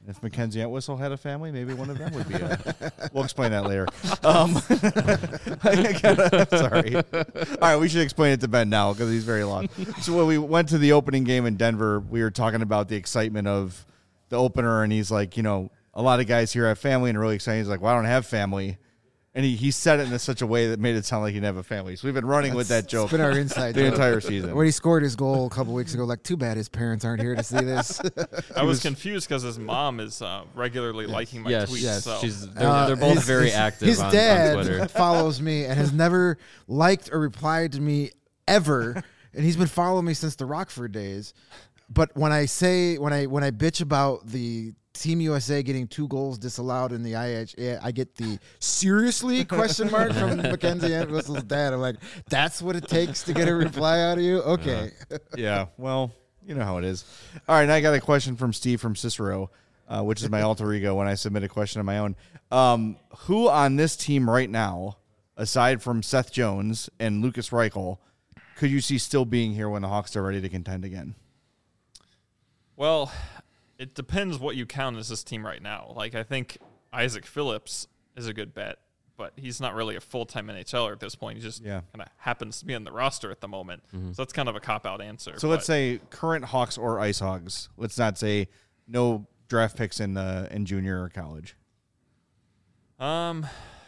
If Mackenzie Entwistle had a family, maybe one of them would be a... We'll explain that later. Um, I gotta, sorry. All right, we should explain it to Ben now because he's very long. So when we went to the opening game in Denver, we were talking about the excitement of the opener, and he's like, you know, a lot of guys here have family and are really excited. He's like, well, I don't have family. And he, he said it in such a way that made it sound like he didn't have a family. So we've been running with that joke It's been our inside the joke. entire season. When he scored his goal a couple weeks ago, like, too bad his parents aren't here to see this. I was confused because his mom is uh, regularly liking my Yes, tweets. yes, so. she's they're, Uh, they're both his- very his- active His on, dad on Twitter. follows me and has never liked or replied to me ever, and he's been following me since the Rockford days. But when I say when I when I bitch about the Team U S A getting two goals disallowed in the I H A, I get the seriously question mark from Mackenzie Entwistle's dad. I'm like, that's what it takes to get a reply out of you? Okay. Yeah, well, you know how it is. All right, now I got a question from Steve from Cicero, uh, which is my alter ego when I submit a question of my own. Um, who on this team right now, aside from Seth Jones and Lucas Reichel, could you see still being here when the Hawks are ready to contend again? Well, it depends what you count as this team right now. Like, I think Isaac Phillips is a good bet, but he's not really a full-time N H L er at this point. He just Yeah. kind of happens to be on the roster at the moment. So that's kind of a cop-out answer. So let's but- say current Hawks or Ice Hogs. Let's not say no draft picks in uh, in junior or college. Um,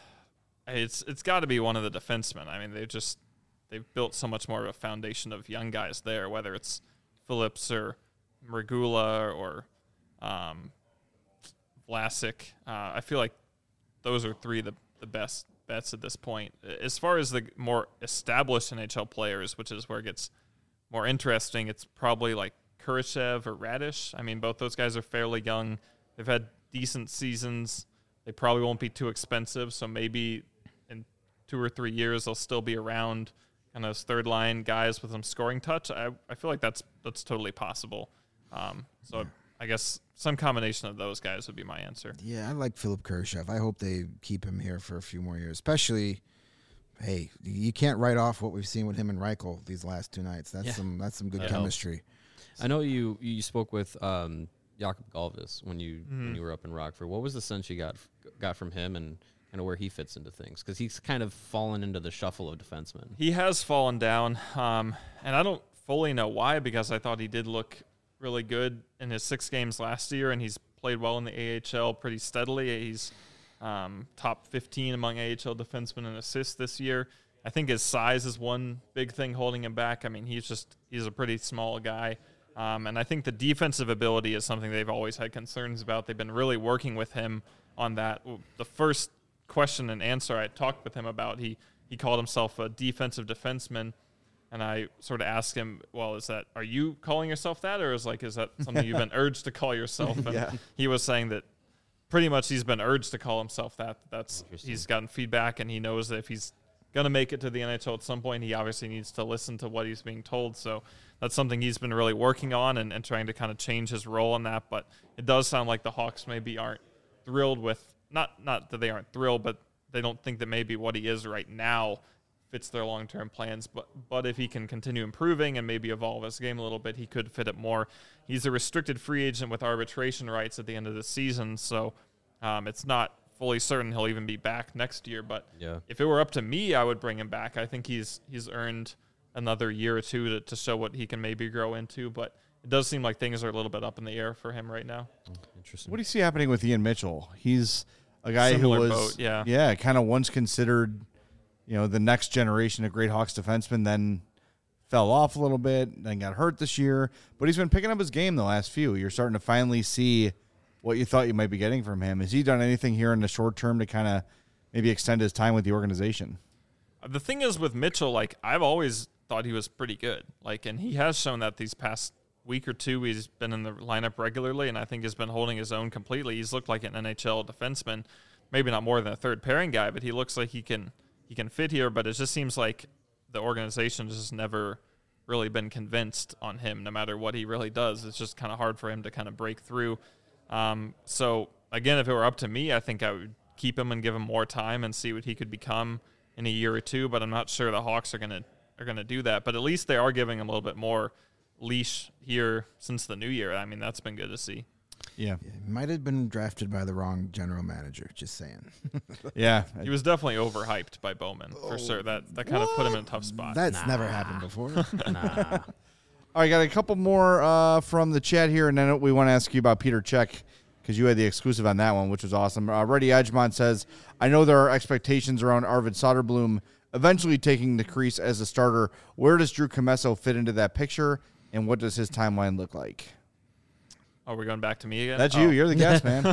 it's it's got to be one of the defensemen. I mean, they've just they've built so much more of a foundation of young guys there, whether it's Phillips or Regula or um, Vlasic. Uh, I feel like those are three of the, the best bets at this point. As far as the more established N H L players, which is where it gets more interesting, it's probably like Kurashev or Radish. I mean, both those guys are fairly young. They've had decent seasons. They probably won't be too expensive, so maybe in two or three years they'll still be around kind of third line guys with some scoring touch. I, I feel like that's that's totally possible. Um, so yeah. I guess some combination of those guys would be my answer. Yeah, I like Philip Kurashev. I hope they keep him here for a few more years, especially. Hey, you can't write off what we've seen with him and Reichel these last two nights. That's Yeah. some that's some good That chemistry. I know you you spoke with um, Jakob Galvis when you Mhm. when you were up in Rockford. What was the sense you got got from him and kind of where he fits into things? Because he's kind of fallen into the shuffle of defensemen. He has fallen down, um, and I don't fully know why, because I thought he did look really good in his six games last year, and he's played well in the A H L pretty steadily. He's um, top fifteen among A H L defensemen in assists this year. I think his size is one big thing holding him back. I mean, he's just he's a pretty small guy. Um, and I think the defensive ability is something they've always had concerns about. They've been really working with him on that. The first question and answer I talked with him about, he, he called himself a defensive defenseman. And I sort of asked him, well, is that, are you calling yourself that? Or is like, is that something you've been urged to call yourself? And Yeah. he was saying that pretty much he's been urged to call himself that. That's, he's gotten feedback, and he knows that if he's going to make it to the N H L at some point, he obviously needs to listen to what he's being told. So that's something he's been really working on and, and trying to kind of change his role in that. But it does sound like the Hawks maybe aren't thrilled with, not not that they aren't thrilled, but they don't think that maybe what he is right now fits their long-term plans. But but if he can continue improving and maybe evolve his game a little bit, he could fit it more. He's a restricted free agent with arbitration rights at the end of the season, so um, it's not fully certain he'll even be back next year. But Yeah. if it were up to me, I would bring him back. I think he's he's earned another year or two to, to show what he can maybe grow into. But it does seem like things are a little bit up in the air for him right now. Interesting. What do you see happening with Ian Mitchell? He's a guy Similar who was, boat, yeah. yeah, kind of once considered, you know, the next generation of great Hawks defensemen, then fell off a little bit, then got hurt this year. But he's been picking up his game the last few. You're starting to finally see what you thought you might be getting from him. Has he done anything here in the short term to kind of maybe extend his time with the organization? The thing is with Mitchell, like, I've always thought he was pretty good. Like, and he has shown that these past week or two he's been in the lineup regularly, and I think has been holding his own completely. He's looked like an N H L defenseman, maybe not more than a third pairing guy, but he looks like he can he can fit here. But it just seems like the organization has just never really been convinced on him, no matter what he really does. It's just kind of hard for him to kind of break through. Um, so again, if it were up to me, I think I would keep him and give him more time and see what he could become in a year or two. But I'm not sure the Hawks are gonna are gonna do that. But at least they are giving him a little bit more leash here since the new year. I mean, that's been good to see. Yeah. Might have been drafted by the wrong general manager. Just saying. Yeah. He was definitely overhyped by Bowman for sure. That that kind of put him in a tough spot. That's Nah. never happened before. Nah. All right, got a couple more uh, from the chat here, and then we want to ask you about Peter Cech because you had the exclusive on that one, which was awesome. Uh, Reddy Edgemont says, I know there are expectations around Arvid Soderblom eventually taking the crease as a starter. Where does Drew Commesso fit into that picture, and what does his timeline look like? Are we going back to me again? That's Oh. you. You're the guest, man.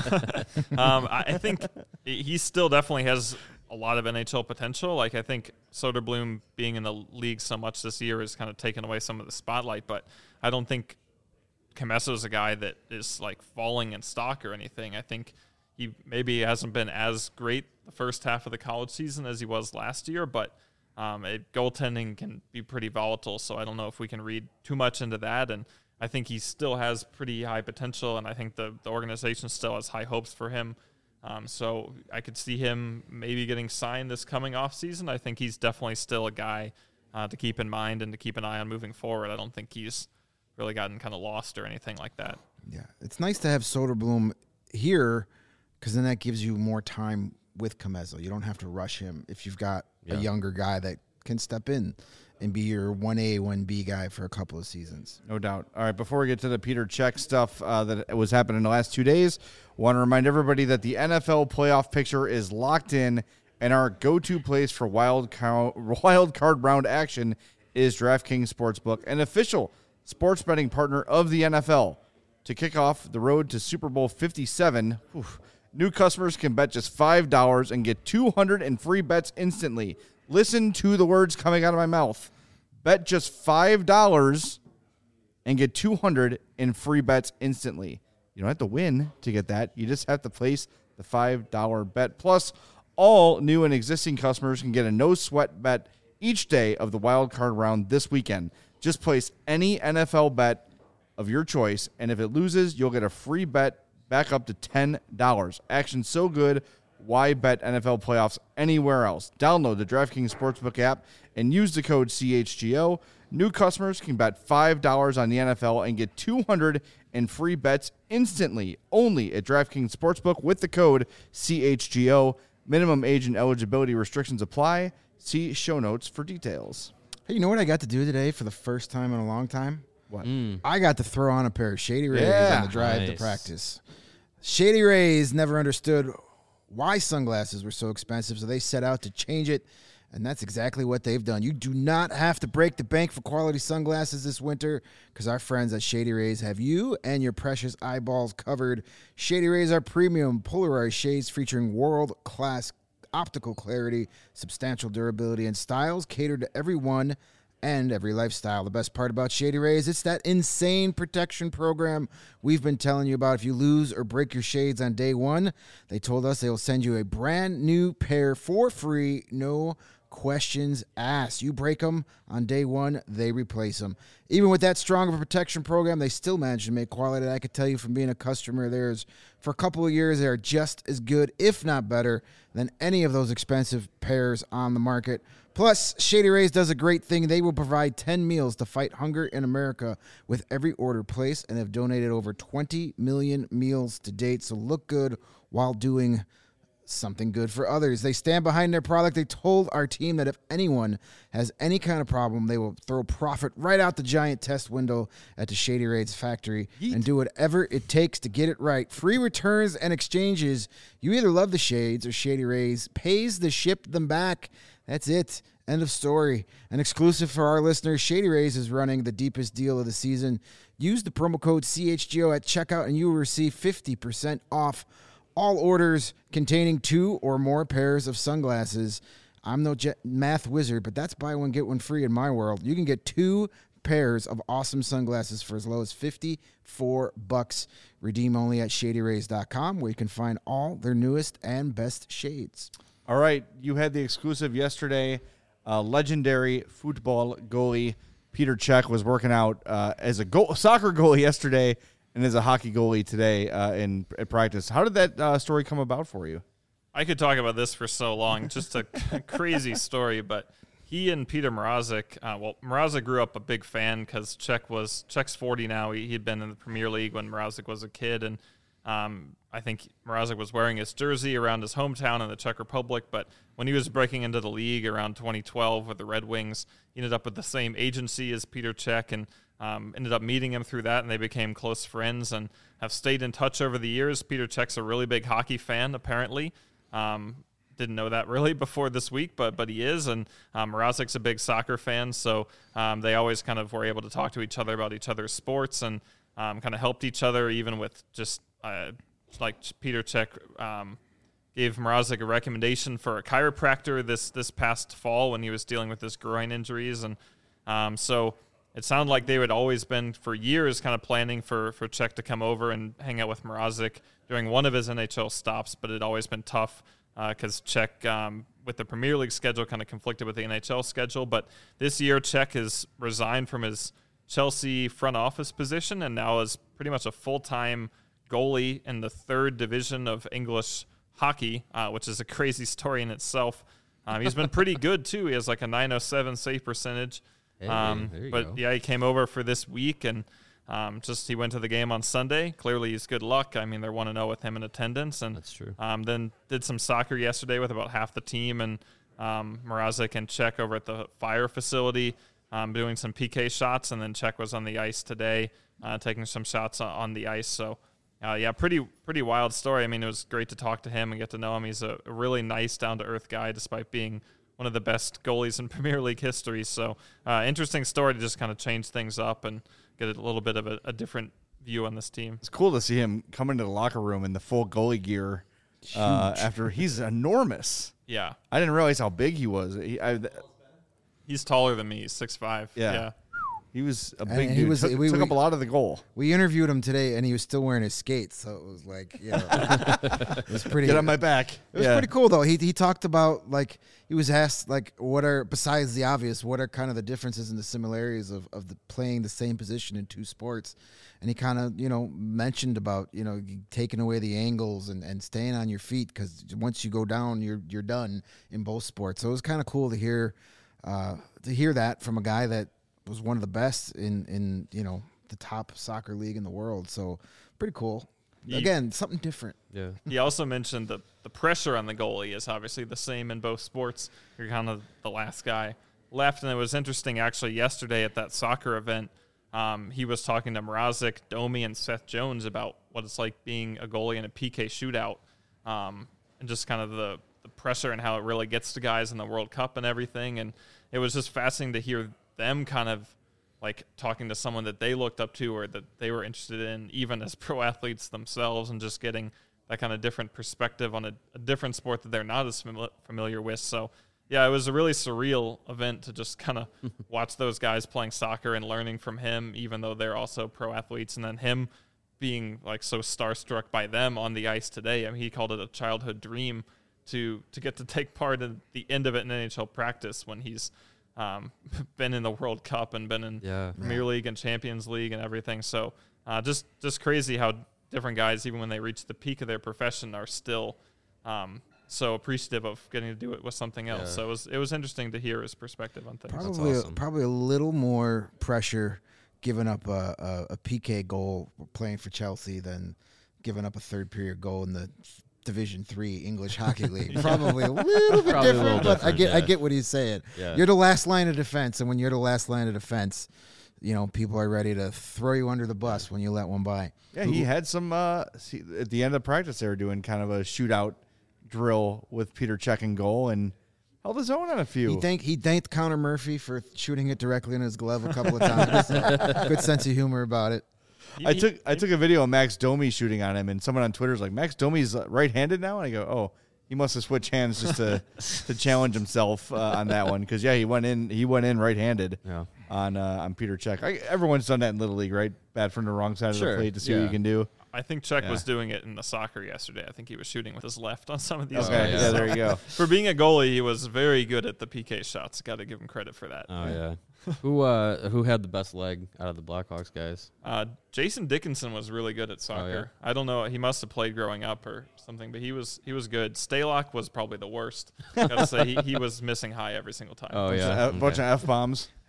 um, I I think he still definitely has a lot of N H L potential. Like, I think Soderblom being in the league so much this year has kind of taken away some of the spotlight, but I don't think Commesso is a guy that is like falling in stock or anything. I think he maybe hasn't been as great the first half of the college season as he was last year, but um, it, goaltending can be pretty volatile, so I don't know if we can read too much into that. And I think he still has pretty high potential, and I think the, the organization still has high hopes for him. Um, so I could see him maybe getting signed this coming off season. I think he's definitely still a guy uh, to keep in mind and to keep an eye on moving forward. I don't think he's really gotten kind of lost or anything like that. Yeah, it's nice to have Soderblom here because then that gives you more time with Commesso. You don't have to rush him if you've got Yeah. a younger guy that can step in and be your one A, one B guy for a couple of seasons. No doubt. All right, before we get to the Peter Cech stuff uh, that was happening in the last two days, want to remind everybody that the N F L playoff picture is locked in, and our go-to place for wild, cow- wild card round action is DraftKings Sportsbook, an official sports betting partner of the N F L. To kick off the road to Super Bowl fifty-seven, whew, new customers can bet just five dollars and get two hundred in free bets instantly. Listen to the words coming out of my mouth. Bet just five dollars and get two hundred in free bets instantly. You don't have to win to get that. You just have to place the five dollar bet. Plus, all new and existing customers can get a no-sweat bet each day of the wild card round this weekend. Just place any N F L bet of your choice, and if it loses, you'll get a free bet back up to ten dollars. Action so good, why bet N F L playoffs anywhere else? Download the DraftKings Sportsbook app and use the code C H G O. New customers can bet five dollars on the N F L and get two hundred in free bets instantly, only at DraftKings Sportsbook with the code C H G O. Minimum age and eligibility restrictions apply. See show notes for details. Hey, you know what I got to do today for the first time in a long time? What? I got to throw on a pair of Shady Rays Yeah. on the drive to Nice. practice. Shady Rays never understood why sunglasses were so expensive, so they set out to change it, and that's exactly what they've done. You do not have to break the bank for quality sunglasses this winter because our friends at Shady Rays have you and your precious eyeballs covered. Shady Rays are premium polarized shades featuring world-class optical clarity, substantial durability, and styles catered to everyone and every lifestyle. The best part about Shady Rays, it's that insane protection program we've been telling you about. If you lose or break your shades on day one, they told us they will send you a brand new pair for free, no questions asked. You break them on day one, they replace them. Even with that strong of a protection program, they still manage to make quality. I could tell you from being a customer of theirs for a couple of years, they are just as good, if not better, than any of those expensive pairs on the market. Plus, Shady Rays does a great thing. They will provide ten meals to fight hunger in America with every order placed and have donated over twenty million meals to date. So look good while doing something good for others. They stand behind their product. They told our team that if anyone has any kind of problem, they will throw profit right out the giant test window at the Shady Rays factory and do whatever it takes to get it right. Free returns and exchanges. You either love the shades or Shady Rays pays to ship them back. That's it. End of story. An exclusive for our listeners, Shady Rays is running the deepest deal of the season. Use the promo code C H G O at checkout and you will receive fifty percent off all orders containing two or more pairs of sunglasses. I'm no jet math wizard, but that's buy one, get one free in my world. You can get two pairs of awesome sunglasses for as low as fifty-four bucks. Redeem only at shady rays dot com, where you can find all their newest and best shades. All right, you had the exclusive yesterday. Uh, legendary football goalie Peter Cech was working out uh, as a goal, soccer goalie yesterday and as a hockey goalie today uh, in at practice. How did that uh, story come about for you? I could talk about this for so long. Just a crazy story, but he and Peter Mrazek, uh, well, Mrazek grew up a big fan because Cech was Cech's forty now. He, he'd been in the Premier League when Mrazek was a kid, and Um, I think Mrazek was wearing his jersey around his hometown in the Czech Republic, but when he was breaking into the league around twenty twelve with the Red Wings, he ended up with the same agency as Peter Cech and um, ended up meeting him through that, and they became close friends and have stayed in touch over the years. Peter Cech's a really big hockey fan, apparently. Um, didn't know that really before this week, but but he is, and um, Mrazek's a big soccer fan, so um, they always kind of were able to talk to each other about each other's sports and um, kind of helped each other, even with just uh, like Peter Cech um, gave Mrazek a recommendation for a chiropractor this this past fall when he was dealing with his groin injuries, and um, so it sounded like they had always been for years kind of planning for for Cech to come over and hang out with Mrazek during one of his N H L stops, but it had always been tough because uh, Cech, um, with the Premier League schedule, kind of conflicted with the N H L schedule. But this year, Cech has resigned from his Chelsea front office position and now is pretty much a full-time goalie in the third division of English hockey, uh, which is a crazy story in itself. Um, he's been pretty good, too. He has like a nine oh seven save percentage. Hey, um, there you but, go. yeah, he came over for this week, and um, just he went to the game on Sunday. Clearly, he's good luck. I mean, they're one and oh with him in attendance. And That's true. Um, then did some soccer yesterday with about half the team, and um, Mrazek and Cech over at the Fire facility um, doing some P K shots, and then Cech was on the ice today uh, taking some shots on, on the ice. So, uh, yeah, pretty pretty wild story. I mean, it was great to talk to him and get to know him. He's a, a really nice, down-to-earth guy despite being one of the best goalies in Premier League history. So, uh, interesting story to just kind of change things up and get a little bit of a, a different view on this team. It's cool to see him come into the locker room in the full goalie gear uh, after he's enormous. Yeah. I didn't realize how big he was. He, I, He's taller than me. He's six five. Yeah. Yeah. he was a And big he dude. was- took, we- took we- up a lot of the goal. We interviewed him today, and he was still wearing his skates, so it was like, you know, it was pretty. Get on my back. It was Yeah. pretty cool though. He he talked about, like, he was asked, like, what are, besides the obvious, what are kind of the differences and the similarities of of the playing the same position in two sports, and he kind of, you know, mentioned about, you know, taking away the angles and, and staying on your feet, because once you go down, you're you're done in both sports. So it was kind of cool to hear uh, to hear that from a guy that was one of the best in in you know the top soccer league in the world. So pretty cool. He- Again, something different. Yeah. He also mentioned that the pressure on the goalie is obviously the same in both sports. You're kind of the last guy left. And it was interesting, actually, yesterday at that soccer event, um, he was talking to Mrazek, Domi, and Seth Jones about what it's like being a goalie in a P K shootout um, and just kind of the, the pressure and how it really gets to guys in the World Cup and everything. And it was just fascinating to hear them kind of like talking to someone that they looked up to or that they were interested in, even as pro athletes themselves, and just getting that kind of different perspective on a, a different sport that they're not as fami- familiar with. So, yeah, it was a really surreal event to just kind of watch those guys playing soccer and learning from him, even though they're also pro athletes, and then him being like so starstruck by them on the ice today. I mean, he called it a childhood dream to to get to take part in the end of it in N H L practice when he's um, been in the World Cup and been in Yeah. Premier League and Champions League and everything. So uh, just just crazy how different guys, even when they reach the peak of their profession, are still um, so appreciative of getting to do it with something else. Yeah. So it was it was interesting to hear his perspective on things. Probably, awesome. a, probably a little more pressure giving up a, a, a P K goal playing for Chelsea than giving up a third period goal in the Division Three English Hockey League. Probably a little bit Probably a different, little but I different, get I yeah. get what he's saying. Yeah. You're the last line of defense, and when you're the last line of defense, you know people are ready to throw you under the bus when you let one by. Yeah, he had some uh, see, at the end of practice. They were doing kind of a shootout drill with Peter Cech in goal and held his own on a few. He thanked he thanked Connor Murphy for shooting it directly in his glove a couple of times. So, good sense of humor about it. He- I he- took I took a video of Max Domi shooting on him, and someone on Twitter was like, "Max Domi's uh, right-handed now," and I go, "Oh, he must have switched hands just to to challenge himself uh, on that one." Because yeah, he went in he went in right-handed Yeah. on uh, on Peter Cech. I, everyone's done that in Little League, right? Bat from the wrong side of Sure, the plate to see what yeah. you can do. I think Cech Yeah. was doing it in the soccer yesterday. I think he was shooting with his left on some of these Okay, guys. yeah, there you go. For being a goalie, he was very good at the P K shots. Got to give him credit for that. Oh yeah. who uh who had the best leg out of the Blackhawks guys? Uh, Jason Dickinson was really good at soccer. I don't know. He must have played growing up or something, but he was he was good. Stalock was probably the worst. Gotta say, he, he was missing high every single time. Oh Bunch yeah. of, a bunch of f bombs.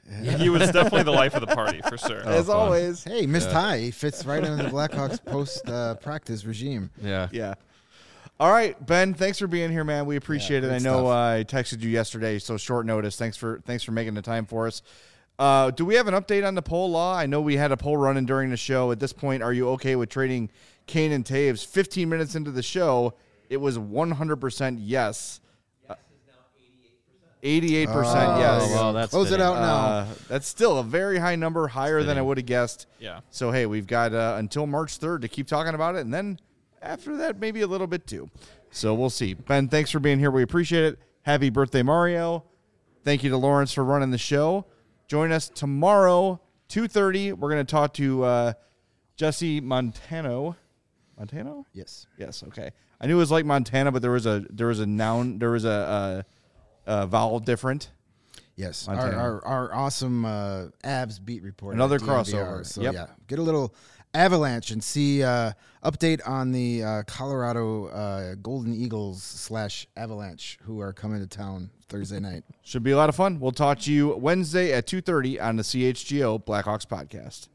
He was definitely the life of the party for sure. As fun. always. Hey, Miss Ty he fits right into the Blackhawks post uh, practice regime. Yeah. Yeah. All right, Ben, thanks for being here, man. We appreciate Yeah, it. I great know stuff. uh, I texted you yesterday, so short notice. Thanks for thanks for making the time for us. Uh, do we have an update on the poll law? I know we had a poll running during the show. At this point, are you okay with trading Kane and Taves? fifteen minutes into the show, it was one hundred percent yes. eighty-eight percent Oh, yes. Oh, well, that's Close it fitting. out now. Uh, that's still a very high number, higher than I fitting. would have guessed. Yeah. So, hey, we've got uh, until March third to keep talking about it, and then after that, maybe a little bit too. So we'll see. Ben, thanks for being here. We appreciate it. Happy birthday, Mario. Thank you to Lawrence for running the show. Join us tomorrow, two thirty. We're going to talk to uh, Jesse Montano. Montano? Yes. Yes, okay. I knew it was like Montana, but there was a there was a noun, there was a, a, a vowel different. Yes, our, Montana. our our awesome uh, Avs beat reporter. Another at D N V R. crossover. So Yep. yeah, get a little Avalanche and see uh, update on the uh, Colorado uh, Golden Eagles slash Avalanche who are coming to town Thursday night. Should be a lot of fun. We'll talk to you Wednesday at two thirty on the C H G O Blackhawks podcast.